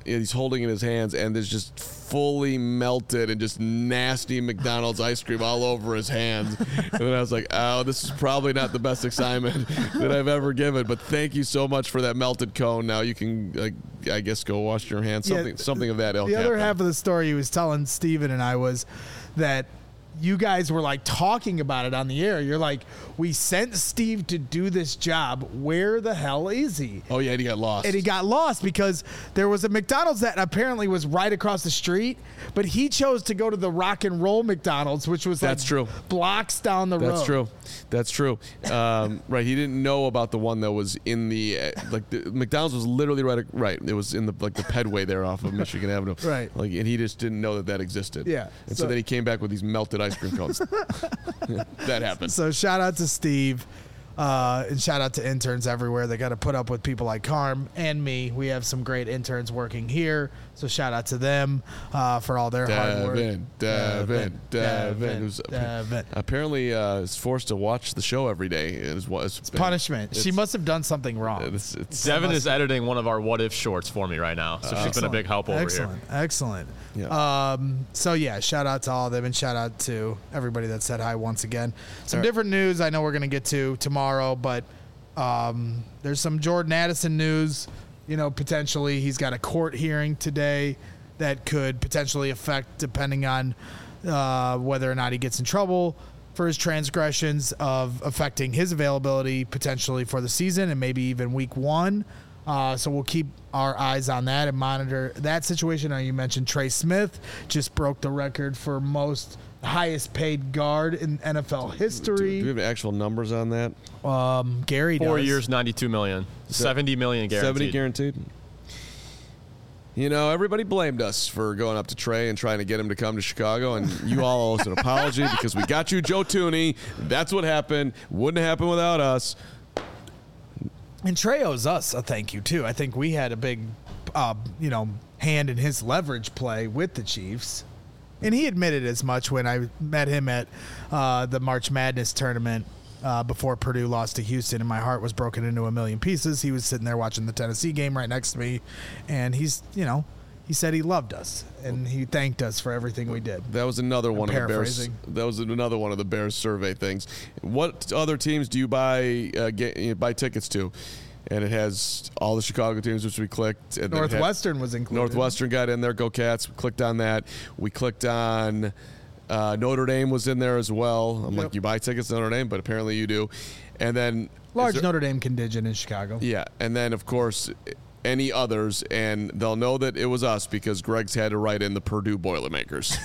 he's holding it in his hands, and there's just fully melted and just nasty McDonald's ice cream all over his hands. And then I was like, oh, this is probably not the best assignment that I've ever given, but thank you so much for that melted cone. Now you can, like, I guess, go wash your hands, something, Yeah, something of that ilk. The other happened. half of the story he was telling Steven and I was that you guys were like talking about it on the air. You're like, we sent Steve to do this job. Where the hell is he? Oh, yeah, and he got lost. And he got lost because there was a McDonald's that apparently was right across the street, but he chose to go to the Rock and Roll McDonald's, which was That's like true. blocks down the road. That's true. That's true. Um, right. He didn't know about the one that was in the uh, like the McDonald's was literally right. Right. It was in the like the pedway there off of Michigan Avenue. Right. Like, and he just didn't know that that existed. Yeah. And so, So- then he came back with these melted ice cream cones. That happened. So shout out to Steve. Uh, and shout out to interns everywhere. They got to put up with people like Carm and me. We have some great interns working here. So shout out to them uh, for all their hard work. Devin, Devin, Devin, who's Devin. apparently uh, is forced to watch the show every day. It is what it's been- Punishment. She it's- must have done something wrong. It's, it's, Devin is editing one of our What If shorts for me right now, so she's been a big help over excellent, here. Excellent. Yeah. Um, so yeah, shout out to all of them, and shout out to everybody that said hi once again. Some All right. different news I know we're gonna get to tomorrow, but um, there's some Jordan Addison news. You know, potentially he's got a court hearing today that could potentially affect, depending on uh, whether or not he gets in trouble for his transgressions, of affecting his availability potentially for the season and maybe even week one. Uh, so we'll keep our eyes on that and monitor that situation. Now, you mentioned Trey Smith just broke the record for most highest paid guard in N F L do, history. do we have actual numbers on that? Um, Gary Four does. years, ninety-two million, seventy million guaranteed. seventy guaranteed. You know, everybody blamed us for going up to Trey and trying to get him to come to Chicago, and you all owe us an apology because we got you Joe Tooney. That's what happened. Wouldn't have happened without us. And Trey owes us a thank you too. I think we had a big, uh, you know, hand in his leverage play with the Chiefs, and he admitted as much when I met him at uh, the March Madness tournament uh, before Purdue lost to Houston, and my heart was broken into a million pieces. He was sitting there watching the Tennessee game right next to me, and he's, you know, he said he loved us and he thanked us for everything we did. That was another one of the Bears. paraphrasing. That was another one of the Bears survey things. What other teams do you buy uh, get, you know, buy tickets to? And it has all the Chicago teams, which we clicked. And then it had- Northwestern was included. Northwestern got in there. Go Cats. We clicked on that. We clicked on uh, Notre Dame was in there as well. I'm Yep. like, you buy tickets to Notre Dame, but apparently you do. And then Large is there- Notre Dame contingent in Chicago. Yeah, and then of course any others, and they'll know that it was us because Greg's had to write in the Purdue Boilermakers.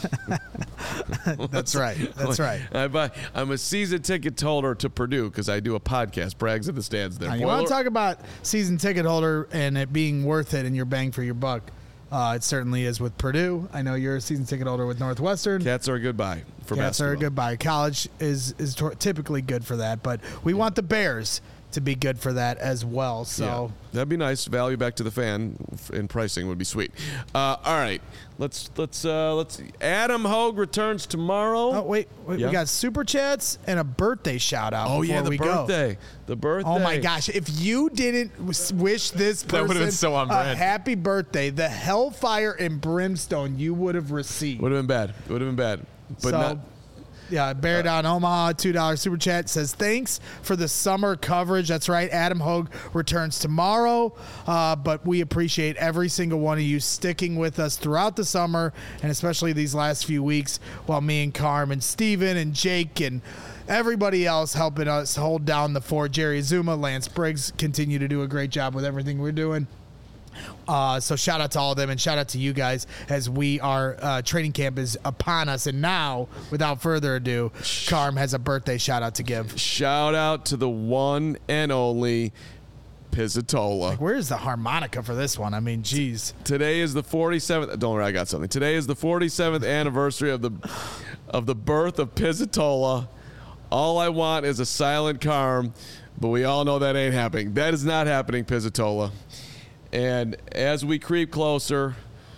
That's right. That's right. I buy, I'm a season ticket holder to Purdue because I do a podcast. Bragg's in the stands there. Now, you want Boiler- to talk about season ticket holder and it being worth it and your bang for your buck? Uh, it certainly is with Purdue. I know you're a season ticket holder with Northwestern. Cats are a good buy for Cats basketball. are a good buy. College is is tor- typically good for that, but we want the Bears to be good for that as well. So. Yeah, that'd be nice. Value back to the fan in pricing would be sweet. Uh, all right, let's let's uh, let's. Adam Hogue returns tomorrow. Oh wait, wait Yeah. we got super chats and a birthday shout out. Oh, before yeah, the we Go. birthday. The birthday. Oh my gosh! If you didn't w- wish this That would've person been so on a brand. happy birthday, the hellfire and brimstone you would have received. Would have been bad. Would have been bad. But so, not. yeah, Bear Down Omaha, two dollars super chat says, thanks for the summer coverage. That's right. Adam Hogue returns tomorrow, uh, but we appreciate every single one of you sticking with us throughout the summer and especially these last few weeks while me and Carm and Steven and Jake and everybody else helping us hold down the fort. Jerry Zuma, Lance Briggs continue to do a great job with everything we're doing. Uh, so shout out to all of them and shout out to you guys as we are uh, training camp is upon us. And now, without further ado, Carm has a birthday shout out to give. Shout out to the one and only Pizzatola. Where's the harmonica for this one? I mean, geez. Today is the forty-seventh. Don't worry, I got something. Today is the forty-seventh anniversary of the of the birth of Pizzatola. All I want is a silent Carm, but we all know that ain't happening. That is not happening, Pizzatola. And as we creep closer,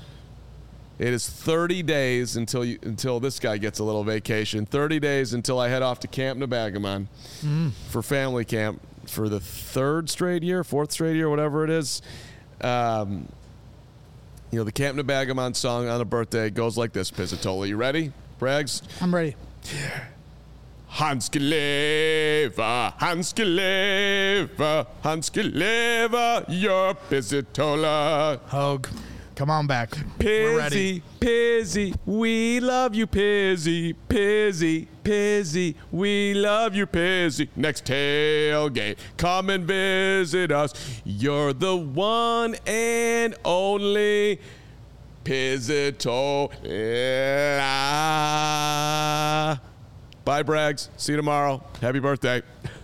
it is thirty days until you, until this guy gets a little vacation. thirty days until I head off to Camp Nebagamon mm. for family camp for the third straight year, fourth straight year, whatever it is. Um, You know, the Camp Nabagamon song on a birthday goes like this, Pizzatola. You ready, Braggs? I'm ready. Hanske leva, Hanske leva, Hanske leva, your Pizzatola. Hogue, come on back. We're ready. Pizzy, Pizzy, we love you, Pizzy, Pizzy, Pizzy, we love you, Pizzy. Next tailgate, come and visit us. You're the one and only Pizzatola. Bye, Braggs. See you tomorrow. Happy birthday.